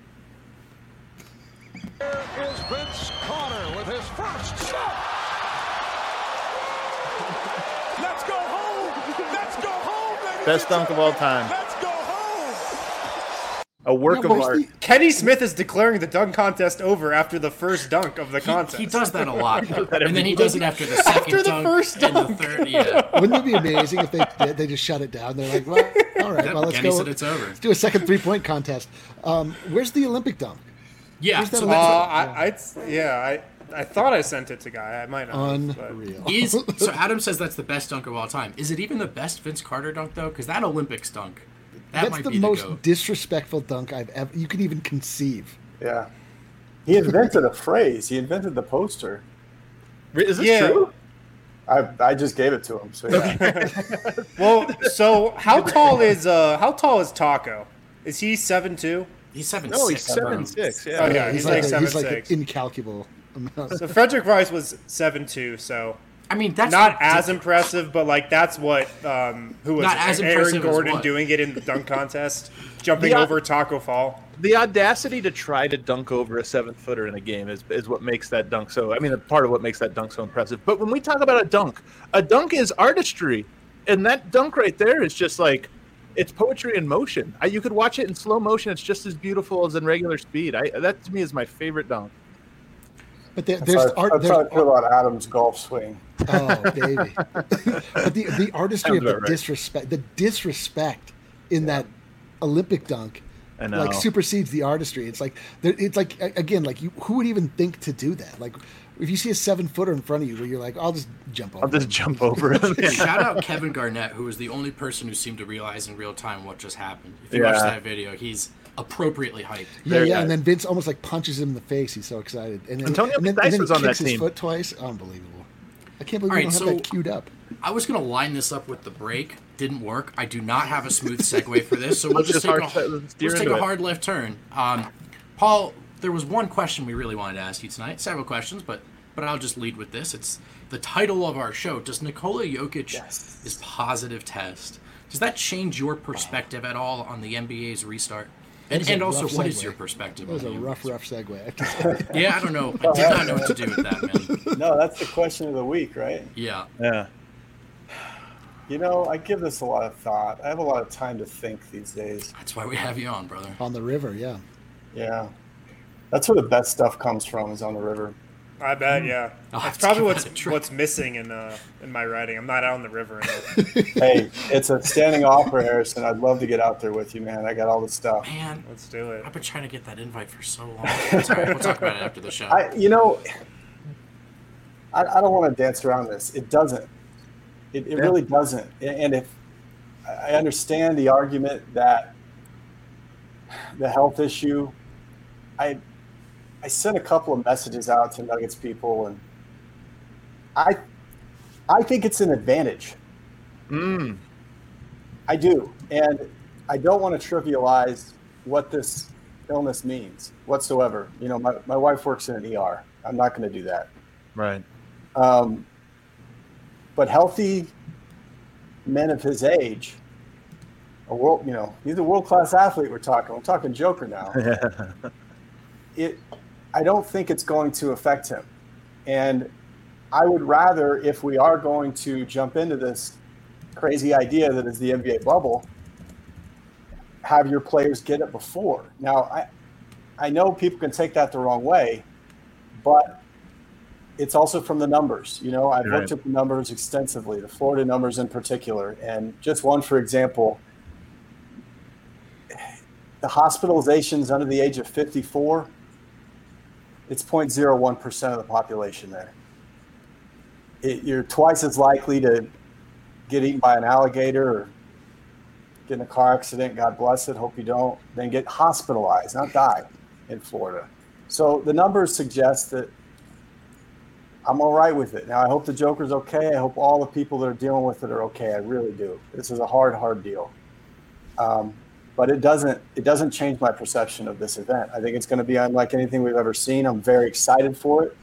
Here is Vince Carter with his first shot. Let's go home. Let's go home, ladies Best and dunk of all gentlemen. time. Let's go home. A work Yeah, of where's art. the- Kenny Smith is declaring the dunk contest over after the first dunk of the He, contest. he does that a lot, that and then he every- does it after the second After the dunk first and the third. Yeah, Wouldn't it be amazing if they did? They just shut it down? They're like, well, all right, well, let's Kenny go. said it's over. Let's do a second three-point contest. Um, where's the Olympic dunk? Yeah, Where's that so Uh, Olympic- I, I, yeah, I, I thought I sent it to Guy. I might not. have, but- Unreal. is so Adam says that's the best dunk of all time. Is it even the best Vince Carter dunk though? Because that Olympics dunk, that That's might the be most the goat. disrespectful dunk I've ever. You could even conceive. Yeah. He invented a phrase. He invented the poster. Is this Yeah. true? I I just gave it to him. So yeah. Well, so how tall is uh how tall is Taco? Is he seven two? He's seven No, he's six. seven six. Yeah. Oh, yeah, he's like a- seven, he's like six. an incalculable amount. So Frederick Rice was seven two. So I mean, that's not as ridiculous. impressive, but like that's what um who was Not it? as Aaron impressive as Gordon what? doing it in the dunk contest, jumping Yeah. over Taco Fall. The audacity to try to dunk over a seven footer in a game is, is what makes that dunk so. I mean, part of what makes that dunk so impressive. But when we talk about a dunk, a dunk is artistry, and that dunk right there is just like it's poetry in motion. I, you could watch it in slow motion; it's just as beautiful as in regular speed. I, that to me is my favorite dunk. But there, That's there's how, art. that's There's, how I feel about Adam's golf swing. oh, baby. But the the artistry Sounds of the about right. disrespect, the disrespect in that Olympic dunk, I know. like supersedes the artistry. It's like there- it's like a- again, like you, who would even think to do that? Like if you see a seven footer in front of you, where you're like, I'll just jump over. I'll just jump over it. Shout out Kevin Garnett, who was the only person who seemed to realize in real time what just happened. If you watch Yeah. that video, he's appropriately hyped. Yeah, Very yeah, nice. and then Vince almost like punches him in the face. He's so excited. And then, Antonio and then, Dice and then was he on that kicks his team. foot twice. Unbelievable. I can't believe All we right, don't so- have that queued up. I was going to line this up with the break. Didn't work. I do not have a smooth segue for this, so we'll Let's just just take, hard- a, let's steer let's take into a it. hard left turn. Um, Paul, there was one question we really wanted to ask you tonight. Several questions, but but I'll just lead with this. It's the title of our show. Does Nikola Jokic Yes. is positive test? Does that change your perspective at all on the N B A's restart? And, was a and also, rough what is segue. your perspective? That was on a the rough, N B A's? rough segue. I have to say. Yeah, I don't know. I did not know what to do with that, man. No, that's the question of the week, right? Yeah. Yeah. You know, I give this a lot of thought. I have a lot of time to think these days. That's why we have you on, brother. On the river, yeah. Yeah. That's where the best stuff comes from, is on the river. I bet, yeah. I'll have That's to probably give what's that a try. what's missing in uh in my writing. I'm not out on the river enough. Hey, it's a standing offer, Harrison. I'd love to get out there with you, man. I got all the stuff. Man, Let's do it. I've been trying to get that invite for so long. It's all right. We'll talk about it after the show. I, you know, I, I don't want to dance around this. It doesn't. It, it Yeah. really doesn't. And if I understand the argument that the health issue, I I sent a couple of messages out to Nuggets people, and I I think it's an advantage. Mm. I do, and I don't want to trivialize what this illness means whatsoever. You know, my, my wife works in an E R. I'm not going to do that. Right. Um, but healthy men of his age, a world, you know, he's a world-class athlete. We're talking. We're talking Joker now. it, I don't think it's going to affect him, and I would rather, if we are going to jump into this crazy idea that is the N B A bubble, have your players get it before. Now, I, I know people can take that the wrong way, but it's also from the numbers. You know, I've Right. looked at the numbers extensively, the Florida numbers in particular, and just one, for example, the hospitalizations under the age of fifty-four, it's zero point zero one percent of the population there. It, you're twice as likely to get eaten by an alligator or get in a car accident, God bless it, hope you don't, than get hospitalized, not die in Florida. So the numbers suggest that I'm all right with it. Now, I hope the Joker's okay. I hope all the people that are dealing with it are okay. I really do. This is a hard, hard deal. Um, but it doesn't it doesn't change my perception of this event. I think it's going to be unlike anything we've ever seen. I'm very excited for it.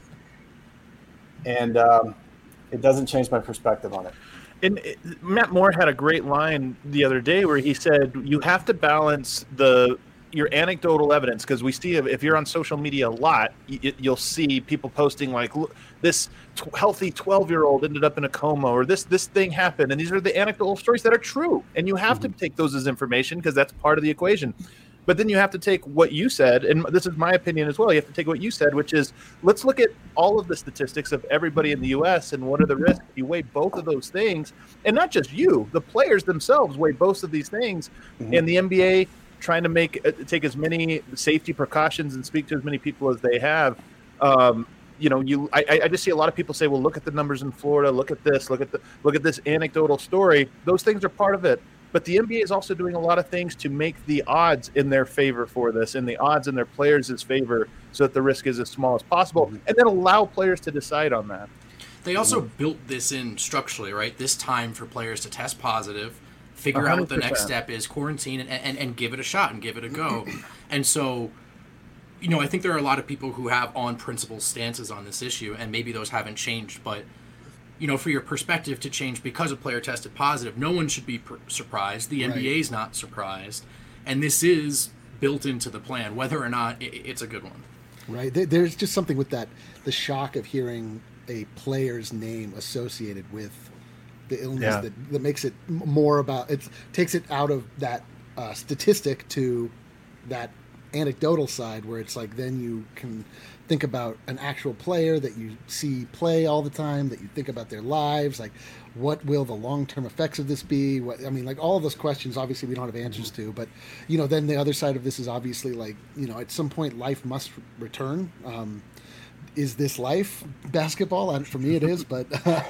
And um, it doesn't change my perspective on it. And it- Matt Moore had a great line the other day where he said, you have to balance the your anecdotal evidence, because we see if you're on social media a lot, y- you'll see people posting like, "Look, this t- healthy twelve-year-old ended up in a coma," or this this thing happened, and these are the anecdotal stories that are true, and you have to take those as information because that's part of the equation. But then you have to take what you said, and this is my opinion as well. You have to take what you said, which is, let's look at all of the statistics of everybody in the U S and what are the risks. You weigh both of those things, and not just you, the players themselves weigh both of these things, Mm-hmm. and the N B A trying to make uh, take as many safety precautions and speak to as many people as they have. Um, you know, you I, I just see a lot of people say, well, look at the numbers in Florida, look at this, look at the look at this anecdotal story. Those things are part of it. But the N B A is also doing a lot of things to make the odds in their favor for this, and the odds in their players' favor, so that the risk is as small as possible, Mm-hmm. and then allow players to decide on that. They also built this in structurally, right? This time for players to test positive, figure out what the next one hundred percent. step is, quarantine, and, and, and give it a shot and give it a go. And so, you know, I think there are a lot of people who have on principle stances on this issue, and maybe those haven't changed, but you know, for your perspective to change because a player tested positive, no one should be per- surprised. The N B A is not surprised, and this is built into the plan, whether or not it, it's a good one. Right. There, there's just something with that, the shock of hearing a player's name associated with the illness Yeah. that, that makes it m- more about, it takes it out of that uh, statistic to that anecdotal side where it's like, then you can think about an actual player that you see play all the time, that you think about their lives, like what will the long-term effects of this be? What, I mean, like all of those questions, obviously we don't have answers to, but you know, then the other side of this is obviously like, you know, at some point life must return. Um, is this life basketball? I- For me it is, but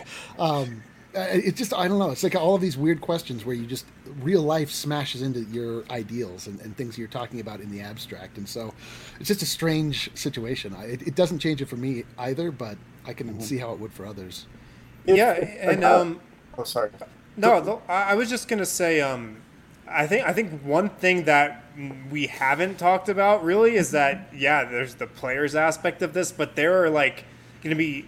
um, it just, I don't know. It's like all of these weird questions where you just, real life smashes into your ideals and, and things you're talking about in the abstract. And so it's just a strange situation. I, it, it doesn't change it for me either, but I can see how it would for others. If- Yeah, if- and uh, um, oh, sorry. no, the, I I was just gonna say, um, I think I think one thing that we haven't talked about really is that yeah, there's the players aspect of this, but there are like gonna be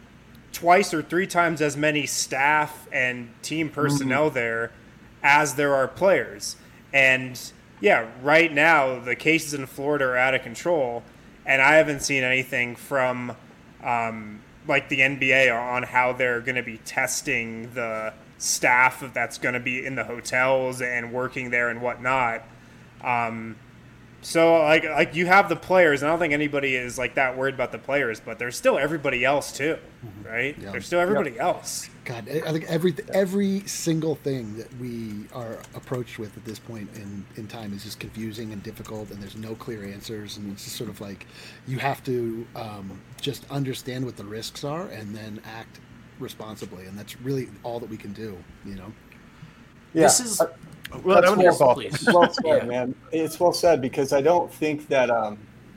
twice or three times as many staff and team personnel there as there are players. And yeah, right now the cases in Florida are out of control, and I haven't seen anything from um, like the N B A on how they're going to be testing the staff that's going to be in the hotels and working there and whatnot. Um, so like like you have the players, and I don't think anybody is like that worried about the players, but there's still everybody else too, right? Yeah. There's still everybody else. God, I I think every every single thing that we are approached with at this point in, in time is just confusing and difficult, and there's no clear answers, and it's just sort of like you have to um, just understand what the risks are and then act responsibly, and that's really all that we can do, you know. Yeah. This is uh, Well, That's that was your well- fault. please. It's well said, Yeah. man. It's well said, because I don't think that. Um,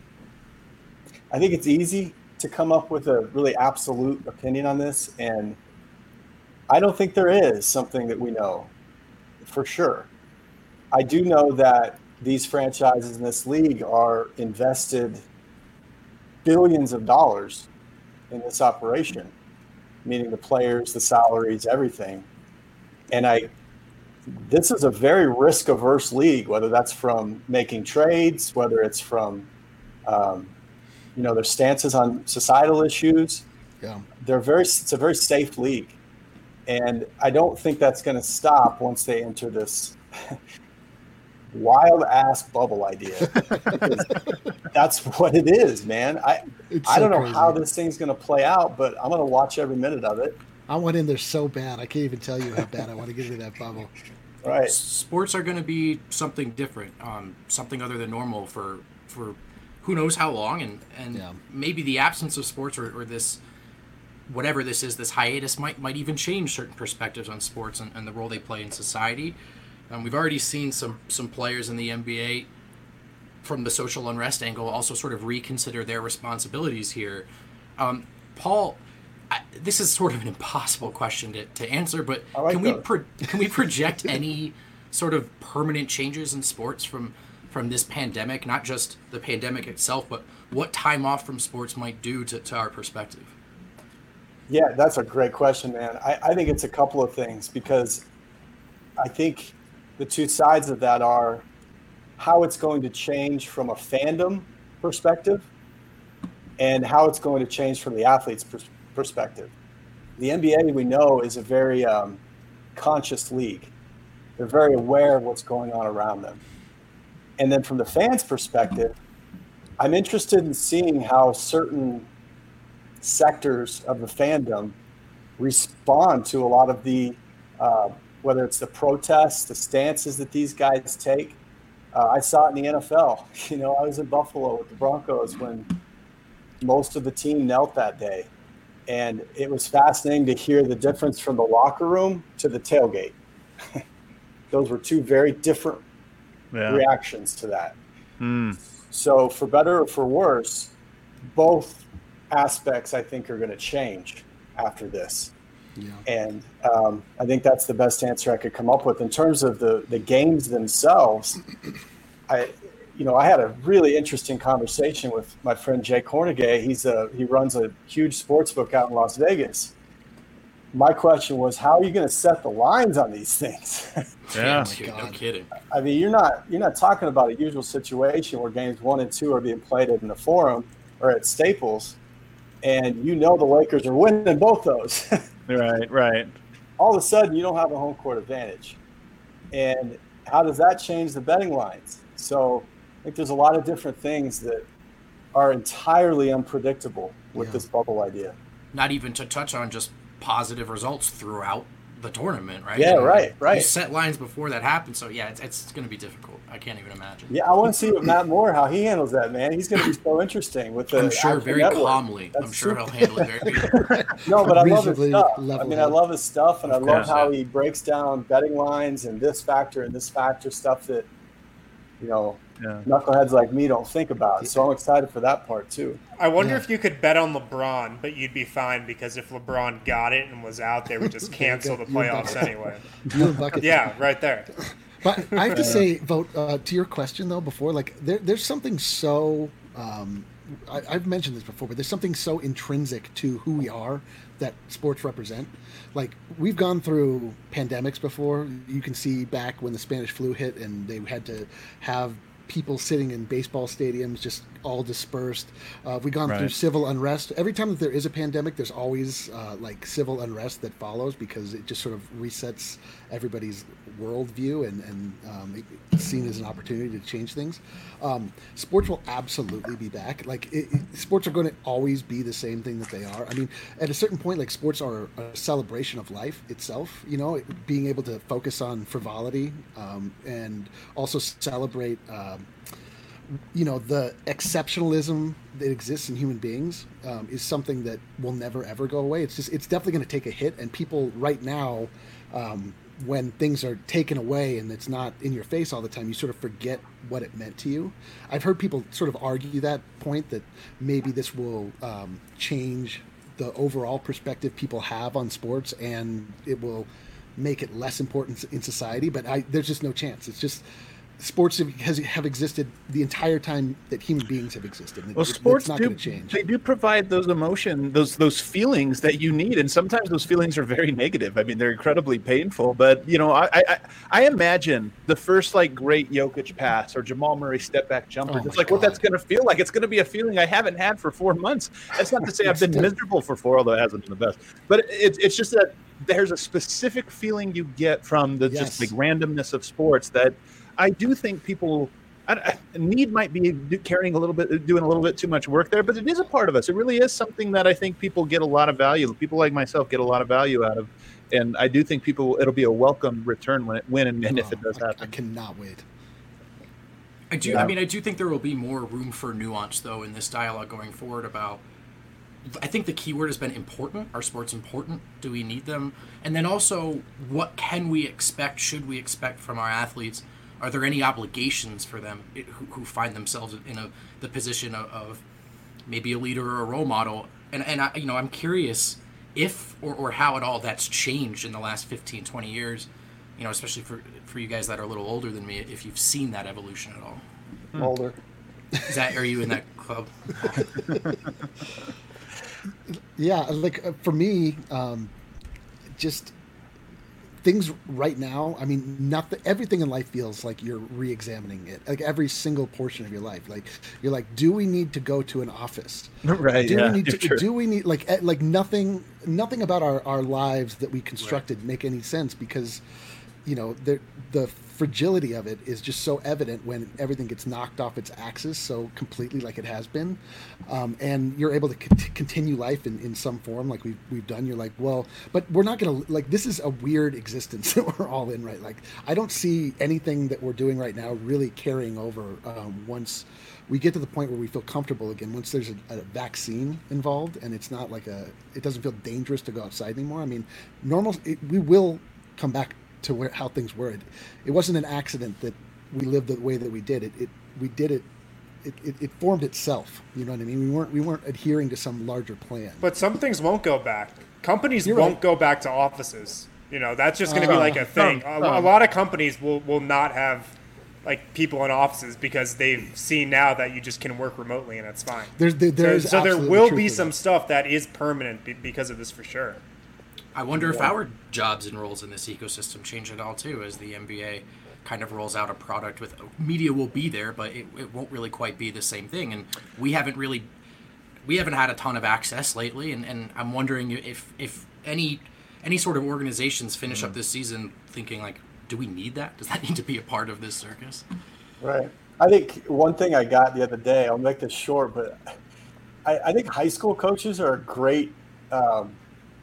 I think it's easy to come up with a really absolute opinion on this, and I don't think there is something that we know for sure. I do know that these franchises in this league are invested billions of dollars in this operation, meaning the players, the salaries, everything. And I, this is a very risk-averse league, whether that's from making trades, whether it's from, um, you know, their stances on societal issues. Yeah, they're very. It's a very safe league, and I don't think that's going to stop once they enter this wild ass bubble idea. That's what it is, man. I It's I so don't know crazy. how this thing's going to play out, but I'm going to watch every minute of it. I want in there so bad. I can't even tell you how bad I want to get into that bubble. Right. Sports are going to be something different, um, something other than normal for for who knows how long, and and Yeah. maybe the absence of sports or, or this whatever this is, this hiatus might might even change certain perspectives on sports and, and the role they play in society. Um, we've already seen some some players in the N B A from the social unrest angle also sort of reconsider their responsibilities here. Um, Paul, I, this is sort of an impossible question to, to answer, but I like can we those. pro- can we project any sort of permanent changes in sports from from this pandemic? Not just the pandemic itself, but what time off from sports might do to, to our perspective. Yeah, that's a great question, man. I, I think it's a couple of things, because I think the two sides of that are how it's going to change from a fandom perspective and how it's going to change from the athlete's pers- perspective. The N B A, we know, is a very um, conscious league. They're very aware of what's going on around them. And then from the fans' perspective, I'm interested in seeing how certain sectors of the fandom respond to a lot of the, uh, whether it's the protests, the stances that these guys take. Uh, I saw it in the N F L. You know, I was in Buffalo with the Broncos when most of the team knelt that day. And it was fascinating to hear the difference from the locker room to the tailgate. Those were two very different Yeah. reactions to that. Mm. So for better or for worse, both aspects I think are going to change after this. Yeah. And um, I think that's the best answer I could come up with. In terms of the, the games themselves, I, you know, I had a really interesting conversation with my friend Jay Cornegay. He's a, he runs a huge sports book out in Las Vegas. My question was, how are you going to set the lines on these things? Yeah. no, God. no kidding. I mean, you're not you're not talking about a usual situation where games one and two are being played in the Forum or at Staples, and you know the Lakers are winning both those. Right, right. All of a sudden, you don't have a home court advantage, and how does that change the betting lines? So I think there's a lot of different things that are entirely unpredictable with Yeah. this bubble idea. Not even to touch on just positive results throughout the tournament, right? Yeah, And right, You right. set lines before that happens, so yeah, it's, it's going to be difficult. I can't even imagine. Yeah, I want to see what Matt Moore, how he handles that, man. He's going to be so interesting with the I'm sure Action very Network. calmly. That's I'm sure super- he'll handle it very good. No, but I love his Reasonably stuff. I level mean, I head. love his stuff, and I Of love course, how yeah. he breaks down betting lines and this factor and this factor, stuff that, you know, Yeah. knuckleheads like me don't think about. So I'm excited for that part too. I wonder Yeah. if you could bet on LeBron, but you'd be fine because if LeBron got it and was out, they would just cancel the You and playoffs Bucket. anyway. You and Bucket. Yeah, right there. But I have to say, vote uh, to your question though. Before, like, there, there's something so um, I, I've mentioned this before, but there's something so intrinsic to who we are that sports represent. Like, we've gone through pandemics before. You can see back when the Spanish flu hit, and they had to have people sitting in baseball stadiums just all dispersed. Uh, we've gone through Right. civil unrest. Every time that there is a pandemic, there's always uh, like civil unrest that follows, because it just sort of resets everybody's worldview, and, and um, it- it's seen as an opportunity to change things. Um, sports will absolutely be back. Like it, it, sports are going to always be the same thing that they are. I mean, at a certain point, like sports are a celebration of life itself. You know, it, being able to focus on frivolity um, and also celebrate. Um, you know, the exceptionalism that exists in human beings um, is something that will never ever go away. It's just, it's definitely going to take a hit, and people right now, um, when things are taken away and it's not in your face all the time, you sort of forget what it meant to you. I've heard people sort of argue that point, that maybe this will um, change the overall perspective people have on sports, and it will make it less important in society. But I, there's just no chance. It's just, sports have, has, have existed the entire time that human beings have existed. Well, It- sports it's not do going to change. they do provide those emotion, those those feelings that you need, and sometimes those feelings are very negative. I mean, they're incredibly painful. But you know, I I, I imagine the first like great Jokic pass or Jamal Murray step back jumper. Oh It's my like what God. that's going to feel like. It's going to be a feeling I haven't had for four months. That's not to say I've been It's- miserable for four, although it hasn't been the best. But it's it's just that there's a specific feeling you get from the just Yes. like randomness of sports that I do think people. I, I, need might be do- carrying a little bit, doing a little bit too much work there, but it is a part of us. It really is something that I think people get a lot of value. People like myself get a lot of value out of, and I do think people it'll be a welcome return when it when and, and if it does Oh, I, happen. I cannot wait. I do. I mean, I do think there will be more room for nuance, though, in this dialogue going forward. About, I think the key word has been important. Are sports important? Do we need them? And then also, what can we expect? Should we expect from our athletes? Are there any obligations for them who, who find themselves in a the position of, of maybe a leader or a role model? And and I, you know, I'm curious if or, or how at all that's changed in the last fifteen, twenty years. You know, especially for for you guys that are a little older than me, if you've seen that evolution at all. Older. Is that are you in that club? Yeah, like uh, for me, um, just things right now. I mean, nothing. Everything in life feels like you're re-examining it. Like every single portion of your life. Like you're like, do we need to go to an office? Right? Do yeah, we need to? sure. Do we need like eh, like nothing? Nothing about our, our lives that we constructed make any sense because, you know, the the fragility of it is just so evident when everything gets knocked off its axis so completely like it has been, um, and you're able to c- continue life in, in some form like we've we've done. You're like, well, but we're not gonna like this is a weird existence that we're all in, right? Like I don't see anything that we're doing right now really carrying over um, once we get to the point where we feel comfortable again. Once there's a, a vaccine involved and it's not like a, it doesn't feel dangerous to go outside anymore. I mean, normal, it, we will come back to where how things were. It, it wasn't an accident that we lived the way that we did. It, it we did it, it, it. It formed itself. You know what I mean? We weren't we weren't adhering to some larger plan. But some things won't go back. Companies You're won't right. go back to offices. You know, that's just going to Uh, be like a thing. some, A, a some. lot of companies will, will not have like people in offices because they've seen now that you just can work remotely and it's fine. There's there, So, there's so there absolutely will truth be to some that. stuff that is permanent be, because of this for sure. I wonder if our jobs and roles in this ecosystem change at all too, as the N B A kind of rolls out a product with media will be there, but it, it won't really quite be the same thing. And we haven't really, we haven't had a ton of access lately. And, and I'm wondering if if any any sort of organizations finish up this season thinking like, do we need that? Does that need to be a part of this circus? Right. I think one thing I got the other day, I'll make this short, but I, I think high school coaches are a great um,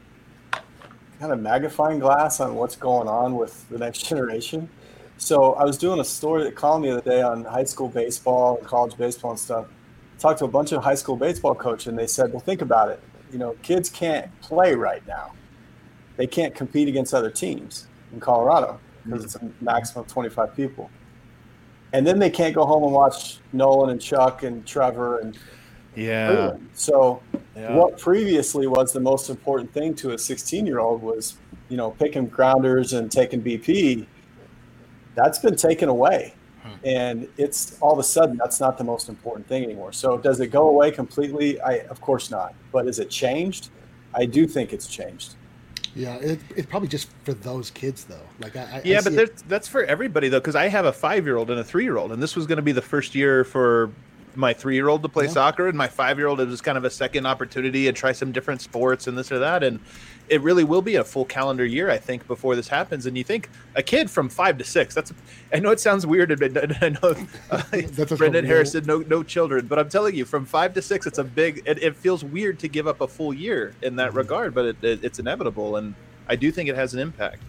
kind of magnifying glass on what's going on with the next generation. So I was doing a story, a column the other day on high school baseball and college baseball and stuff. Talked to a bunch of high school baseball coaches, and they said, well, think about it. You know, kids can't play right now. They can't compete against other teams in Colorado because it's a maximum of twenty-five people. And then they can't go home and watch Nolan and Chuck and Trevor and Yeah. Freeland. So Yeah. what previously was the most important thing to a sixteen-year-old was, you know, picking grounders and taking B P. That's been taken away. And it's all of a sudden, that's not the most important thing anymore. So does it go away completely? I, of course not. But is it changed? I do think it's changed. Yeah, it, it's probably just for those kids though. Like I, I Yeah, I but see it- that's, that's for everybody though, because I have a five-year-old and a three-year-old, and this was going to be the first year for my three-year-old to play Yeah. soccer, and my five-year-old it was kind of a second opportunity and try some different sports and this or that, and it really will be a full calendar year, I think, before this happens. And you think a kid from five to six, that's, I know it sounds weird, and I know uh, That's a Brendan real- Harris said no, no children, but I'm telling you, from five to six, it's a big, it, it feels weird to give up a full year in that Mm-hmm. regard, but it, it, it's inevitable, and I do think it has an impact.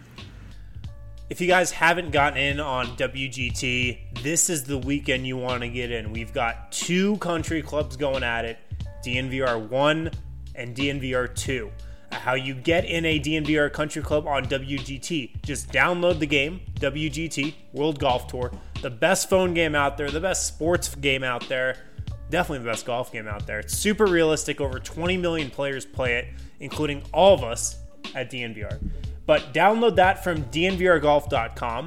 If you guys haven't gotten in on W G T, this is the weekend you want to get in. We've got two country clubs going at it, D N V R one and D N V R two. How you get in a D N V R country club on W G T. Just download the game, W G T, World Golf Tour. The best phone game out there, the best sports game out there. Definitely the best golf game out there. It's super realistic. Over twenty million players play it, including all of us at D N V R. But download that from D N V R golf dot com.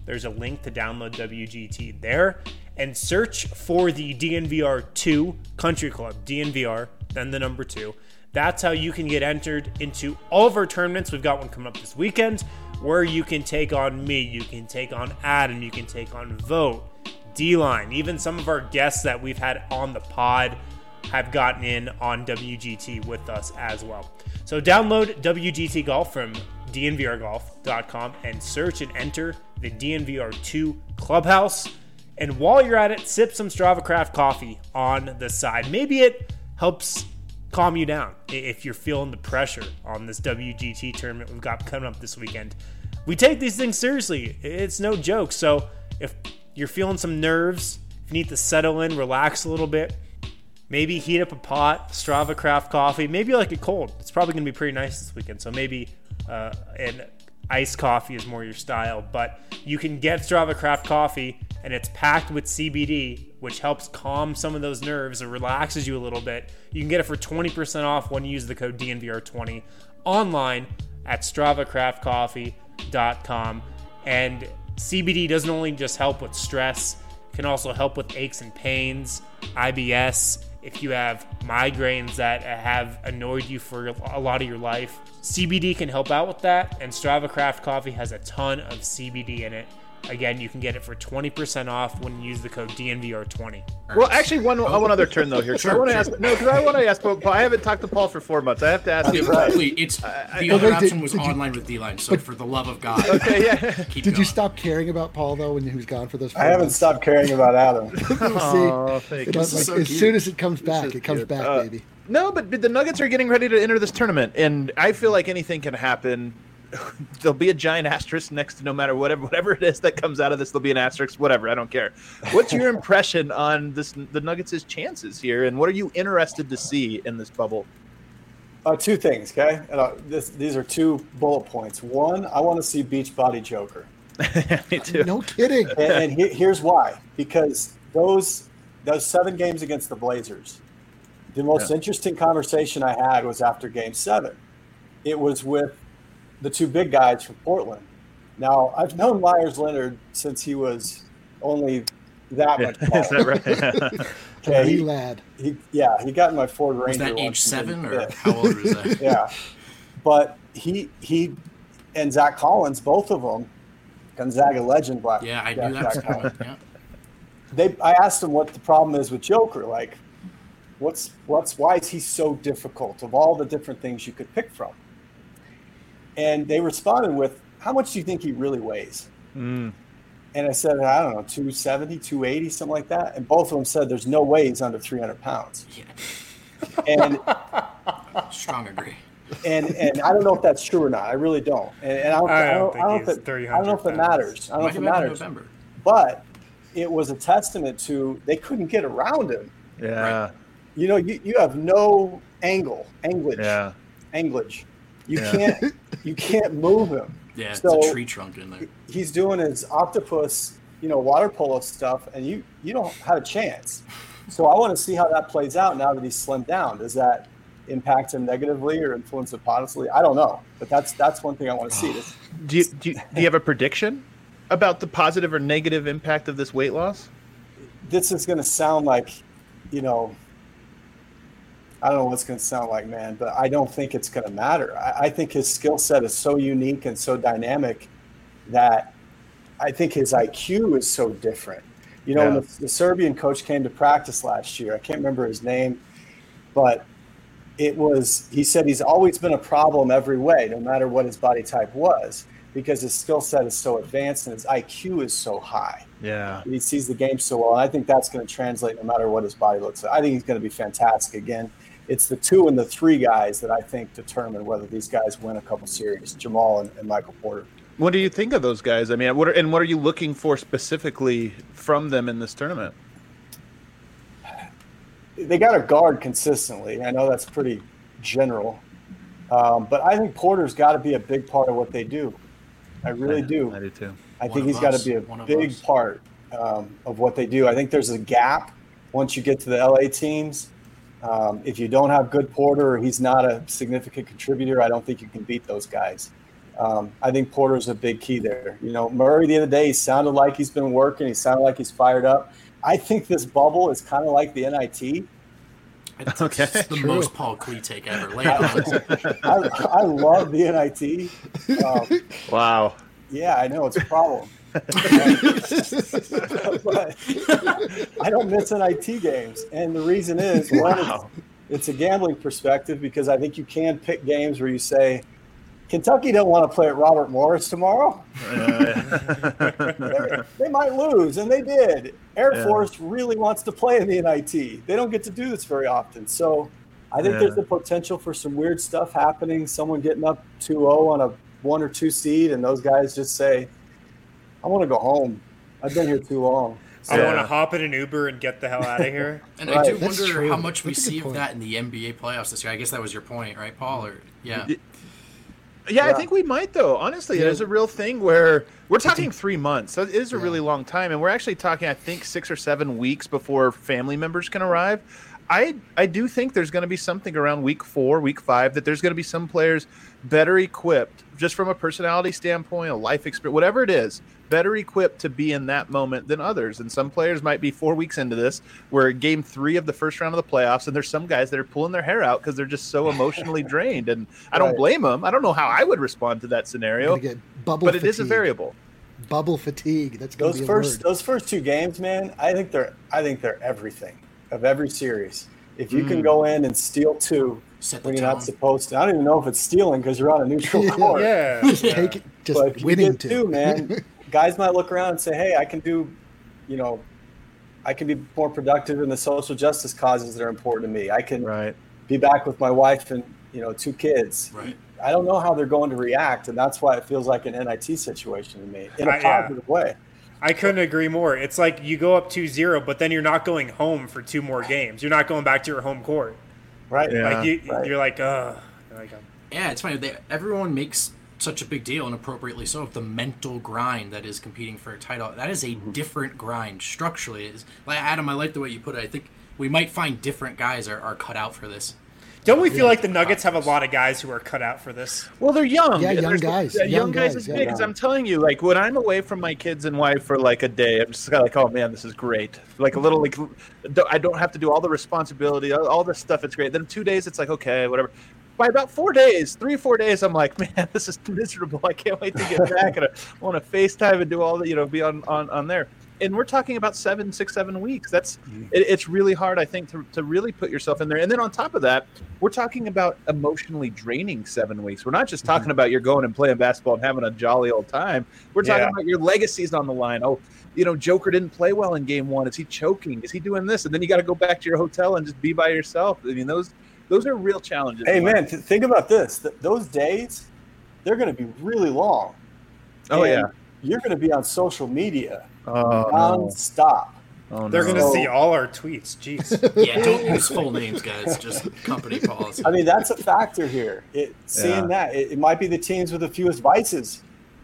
There's a link to download W G T there, and search for the D N V R two Country Club, D N V R, then the number two. That's how you can get entered into all of our tournaments. We've got one coming up this weekend where you can take on me, you can take on Adam, you can take on Vote, D-Line, even some of our guests that we've had on the pod have gotten in on W G T with us as well. So download W G T Golf from D N V R golf dot com and search and enter the D N V R two Clubhouse. And while you're at it, sip some Strava Craft coffee on the side. Maybe it helps calm you down if you're feeling the pressure on this W G T tournament we've got coming up this weekend. We take these things seriously. It's no joke. So if you're feeling some nerves, if you need to settle in, relax a little bit, maybe heat up a pot, Strava Craft coffee. Maybe you like it cold. It's probably going to be pretty nice this weekend. So maybe uh, an iced coffee is more your style. But you can get Strava Craft coffee, and it's packed with C B D, which helps calm some of those nerves and relaxes you a little bit. You can get it for twenty percent off when you use the code D N V R twenty online at Strava Craft Coffee dot com. And C B D doesn't only just help with stress, it can also help with aches and pains, I B S, if you have migraines that have annoyed you for a lot of your life. C B D can help out with that, and Strava Craft Coffee has a ton of C B D in it. Again, you can get it for twenty percent off when you use the code D N V R twenty. Well, actually, one one other turn though here. Sure, I want to sure. ask. No, because I want to ask Paul. I haven't talked to Paul for four months. I have to ask you. Quickly, it's the I- other Did- option was did you- online with D-Line. So for the love of God, Okay, yeah. keep Did going. you stop caring about Paul though when he was gone for those? I haven't stopped caring about Adam. Oh, See, thank it you. does, like, so as cute. soon as it comes back, is it comes cute. back, Uh, baby. No, but the Nuggets are getting ready to enter this tournament, and I feel like anything can happen. There'll be a giant asterisk next to no matter whatever whatever it is that comes out of this. There'll be an asterisk, whatever. I don't care. What's your impression on this the Nuggets' chances here, and what are you interested to see in this bubble? Uh, two things, okay? And, uh, this, these are two bullet points. One, I want to see Beachbody Joker. Me too. No kidding. And, and he, here's why. Because those those seven games against the Blazers, the most Yeah. interesting conversation I had was after game seven. It was with the two big guys from Portland. Now, I've known Myers Leonard since he was only that much taller. Is that right? Okay, Wee he, lad. he, yeah, he got in my Ford Ranger. Was that age once and seven, didn't or fit. how old was that? Yeah, but he he and Zach Collins, both of them, Gonzaga legend, Black. Yeah, I Jack- knew that was Jack coming. Collins. Yeah. They, I asked him what the problem is with Joker. Like, what's what's why is he so difficult of all the different things you could pick from? And they responded with, "How much do you think he really weighs?" Mm. And I said, I don't know, two seventy, two eighty, something like that. And both of them said, "There's no way he's under three hundred pounds." Yeah. And Strong agree. and and I don't know if that's true or not. I really don't. And, and I don't, I I don't don't, think I don't, he's know if it, three I don't know if it hundred matters. I don't know Might if it have been in matters. November. But it was a testament to they couldn't get around him. Yeah. You know, you, you have no angle, anglage, Yeah. anglage. You Yeah. can't you can't move him. Yeah, it's So- a tree trunk in there. He's doing his octopus, you know, water polo stuff, and you you don't have a chance. So I want to see how that plays out now that he's slimmed down. Does that impact him negatively or influence him positively? I don't know, but that's that's one thing I want to see. This, Do you, do you do you have a prediction about the positive or negative impact of this weight loss? this is going to sound like, you know, I don't know what it's going to sound like, man, but I don't think it's going to matter. I, I think his skill set is so unique and so dynamic that I think his I Q is so different. You know, Yeah. when the, the Serbian coach came to practice last year, I can't remember his name, but it was, he said he's always been a problem every way, no matter what his body type was, because his skill set is so advanced and his I Q is so high. Yeah. He sees the game so well. And I think that's going to translate no matter what his body looks like. I think he's going to be fantastic again. It's the two and the three guys that I think determine whether these guys win a couple series, Jamal and, and Michael Porter. What do you think of those guys? I mean, what are, and what are you looking for specifically from them in this tournament? They got to guard consistently. I know that's pretty general. Um, but I think Porter's got to be a big part of what they do. I really do. I do too. I One think of he's got us. to be a One of big us. part um, of what they do. I think there's a gap once you get to the L A teams. Um, if you don't have good Porter or he's not a significant contributor, I don't think you can beat those guys. Um, I think Porter's a big key there. You know, Murray the other day, he sounded like he's been working. He sounded like he's fired up. I think this bubble is kind of like the N I T. It's Okay, the true. most Paul Klee take ever. Lay it on. I, I love the N I T. Um, Wow. yeah, I know it's a problem. But I don't miss N I T games. And the reason is, one, Wow. it's, it's a gambling perspective because I think you can pick games where you say, Kentucky don't want to play at Robert Morris tomorrow. They're- they might lose, and they did. Air Yeah. Force really wants to play in the N I T. They don't get to do this very often. So I think Yeah. there's the potential for some weird stuff happening, someone getting up two oh on a one or two seed, and those guys just say, I want to go home. I've been here too long. I Yeah. want to hop in an Uber and get the hell out of here. And I Right. do That's wonder true. how much we That's a good see of point. that in the N B A playoffs this year. I guess that was your point, right, Paul? Or yeah. Yeah, I Yeah. think we might though. Honestly, Yeah. there's a real thing where we're talking three months. That is a really long time, and we're actually talking, I think, six or seven weeks before family members can arrive. I I do think there's going to be something around week four, week five, that there's going to be some players better equipped, just from a personality standpoint, a life experience, whatever it is, better equipped to be in that moment than others. And some players might be four weeks into this, we're game three of the first round of the playoffs, and there's some guys that are pulling their hair out because they're just so emotionally drained. And I don't Right. blame them. I don't know how I would respond to that You're scenario, gonna get bubble but it fatigue. is a variable. Bubble fatigue. That's gonna Those be a first word. those first two games, man, I think they're I think they're everything of every series. If you Mm. can go in and steal two Set the when you're tone. not supposed to, I don't even know if it's stealing because you're on a neutral court. Yeah. Just yeah. take it, just But if you winning get too. two, man, guys might look around and say, "Hey, I can do, you know, I can be more productive in the social justice causes that are important to me. I can Right. be back with my wife and you know two kids." Right. I don't know how they're going to react, and that's why it feels like an N I T situation to me in a Uh, yeah. positive way. I couldn't agree more. It's like you go up two zero, but then you're not going home for two more games. You're not going back to your home court. Right? Yeah. Like you, Right. you're like, uh, like, um, Yeah, it's funny. They, everyone makes such a big deal, and appropriately so, of the mental grind that is competing for a title. That is a different grind structurally. It's, like Adam, I like the way you put it. I think we might find different guys are, are cut out for this. don't we feel like the Nuggets have a lot of guys who are cut out for this? Well, they're young. Yeah, young There's- guys. yeah, Young young guys guys, is yeah. big. Because I'm telling you, like when I'm away from my kids and wife for like a day, I'm just kind of like, oh man, this is great. Like a little, like I don't have to do all the responsibility, all, all this stuff. It's great. Then two days, it's like okay, whatever. By about four days, three or four days, I'm like, man, this is miserable. I can't wait to get back and I want to FaceTime and do all the, you know, be on on on there. And we're talking about seven, six, seven weeks. That's it, it's really hard, I think, to, to really put yourself in there. And then on top of that, we're talking about emotionally draining seven weeks. We're not just talking about you're going and playing basketball and having a jolly old time. We're talking Yeah. about your legacy's on the line. Oh, you know, Joker didn't play well in game one. Is he choking? Is he doing this? And then you got to go back to your hotel and just be by yourself. I mean, those those are real challenges. Hey, man, th- think about this. Th- those days, they're going to be really long. Oh, And yeah. You're going to be on social media Oh, no. nonstop. Oh, They're no. going to So- see all our tweets. Jeez. Yeah, don't use full names, guys. Just company policy. I mean, that's a factor here. It, seeing Yeah. that, it, it might be the teams with the fewest vices.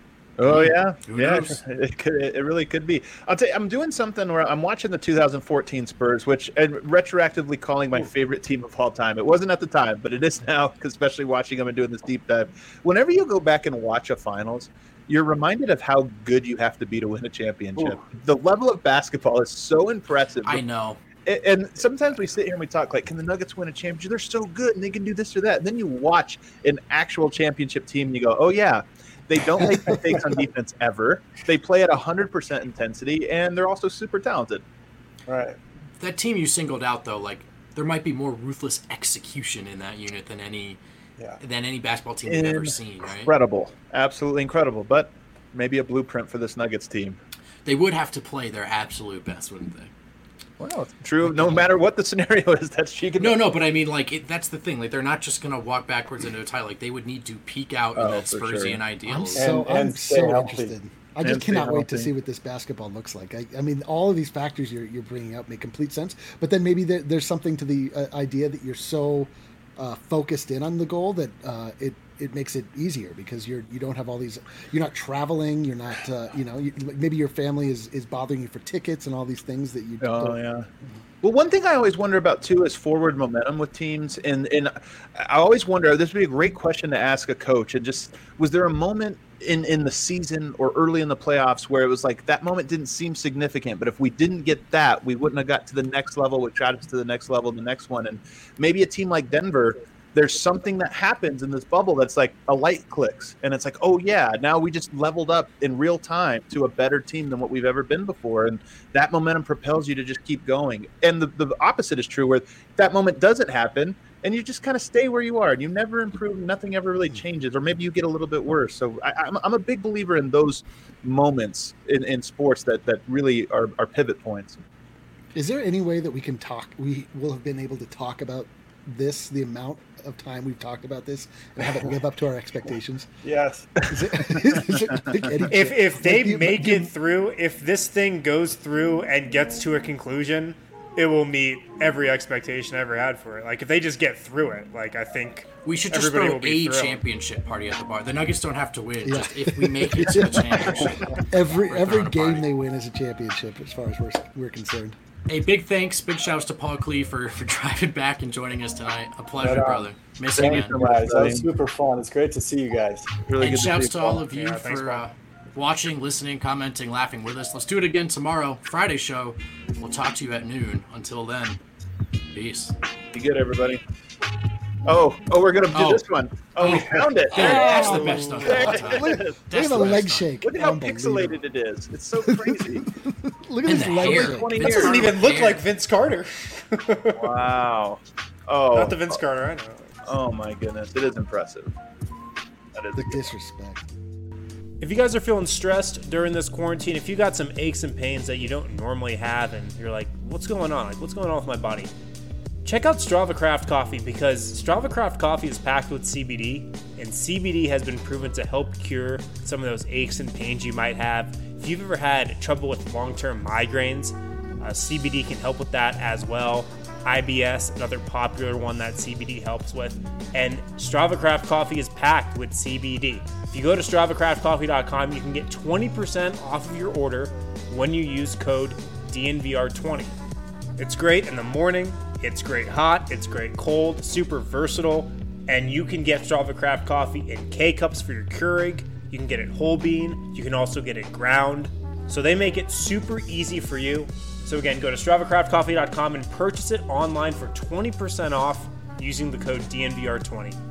Oh yeah, Who yeah. knows? It could, it really could be. I'll tell you, I'm doing something where I'm watching the two thousand fourteen Spurs, which and retroactively calling my favorite team of all time. It wasn't at the time, but it is now, 'cause especially watching them and doing this deep dive. Whenever you go back and watch a finals, you're reminded of how good you have to be to win a championship. Ooh. The level of basketball is so impressive. I know. And- And sometimes we sit here and we talk like, can the Nuggets win a championship? They're so good and they can do this or that. And then you watch an actual championship team and you go, oh yeah, they don't make mistakes on defense ever. They play at one hundred percent intensity and they're also super talented. Right. That team you singled out, though, like there might be more ruthless execution in that unit than any Yeah. than any basketball team we've ever seen, right? Incredible. Absolutely incredible. But maybe a blueprint for this Nuggets team. They would have to play their absolute best, wouldn't they? Well, it's true. No matter what the scenario is, that's she can. No, no, but I mean, like, it, that's the thing. Like, they're not just going to walk backwards into a title. Like, they would need to peak out Oh, in that for Spursian sure. ideal. I'm so And- and I'm stay so healthy. interested. I And just stay cannot wait to healthy. see what this basketball looks like. I, I mean, all of these factors you're, you're bringing up make complete sense. But then maybe there, there's something to the uh, idea that you're so uh, focused in on the goal that uh, it it makes it easier because you're you don't have all these, you're not traveling, you're not uh, you know you, maybe your family is, is bothering you for tickets and all these things that you Oh don't. yeah. Well, one thing I always wonder about too is forward momentum with teams, and and I always wonder, this would be a great question to ask a coach. And just, was there a moment in in the season or early in the playoffs where it was like that moment didn't seem significant, but if we didn't get that, we wouldn't have got to the next level, which got us to the next level, the next one, and maybe a team like Denver, there's something that happens in this bubble that's like a light clicks, and it's like, oh yeah, now we just leveled up in real time to a better team than what we've ever been before, and that momentum propels you to just keep going. And the, the opposite is true, where that moment doesn't happen, and you just kind of stay where you are, and you never improve, nothing ever really changes, or maybe you get a little bit worse. So I, I'm, I'm a big believer in those moments in, in sports that, that really are, are pivot points. Is there any way that we can talk, we will have been able to talk about this, the amount of time we've talked about this, and have it live up to our expectations? Yes. Is it, is it like any, If if they like, you- make you- it through, if this thing goes through and gets to a conclusion, it will meet every expectation I ever had for it. Like if they just get through it, like I think We should just everybody throw will be a thrilled. championship party at the bar. The Nuggets don't have to win. Yeah. Just if we make it to the championship. every we're every throwing a game party. they win is a championship, as far as we're we're concerned. A big thanks, big shouts to Paul Klee for, for driving back and joining us tonight. A pleasure, Right on. brother. Miss you, Thank man. you guys. That was super fun. It's great to see you guys. Really And good shouts see to you, all Paul. of you Yeah, thanks, for Paul. uh, watching, listening, commenting, laughing with us. Let's do it again tomorrow, Friday show. We'll talk to you at noon. Until then, peace. Be good, everybody. Oh, oh, we're gonna do Oh. this one. Oh, we found it. There, that's the Oh. best stuff of There all it time. is. Look That's at the the best leg stuff. shake. Look at how Unbelievable. pixelated it is. It's so crazy. Look at And his the leg hair. shake. twenty Vince It doesn't years. even look Hair. like Vince Carter. Wow. Oh. Not the Vince Carter I know. Oh my goodness, it is impressive. That is The disrespect. If you guys are feeling stressed during this quarantine, if you got some aches and pains that you don't normally have, and you're like, what's going on? Like, what's going on with my body? Check out Strava Craft Coffee, because Strava Craft Coffee is packed with C B D, and C B D has been proven to help cure some of those aches and pains you might have. If you've ever had trouble with long-term migraines, uh, C B D can help with that as well. I B S, another popular one that C B D helps with. And Strava Craft Coffee is packed with C B D. If you go to strava craft coffee dot com, you can get twenty percent off of your order when you use code D N V R twenty. It's great in the morning, it's great hot, it's great cold, super versatile, and you can get Strava Craft Coffee in K-Cups for your Keurig. You can get it whole bean, you can also get it ground. So they make it super easy for you. So again, go to strava craft coffee dot com and purchase it online for twenty percent off using the code D N V R twenty.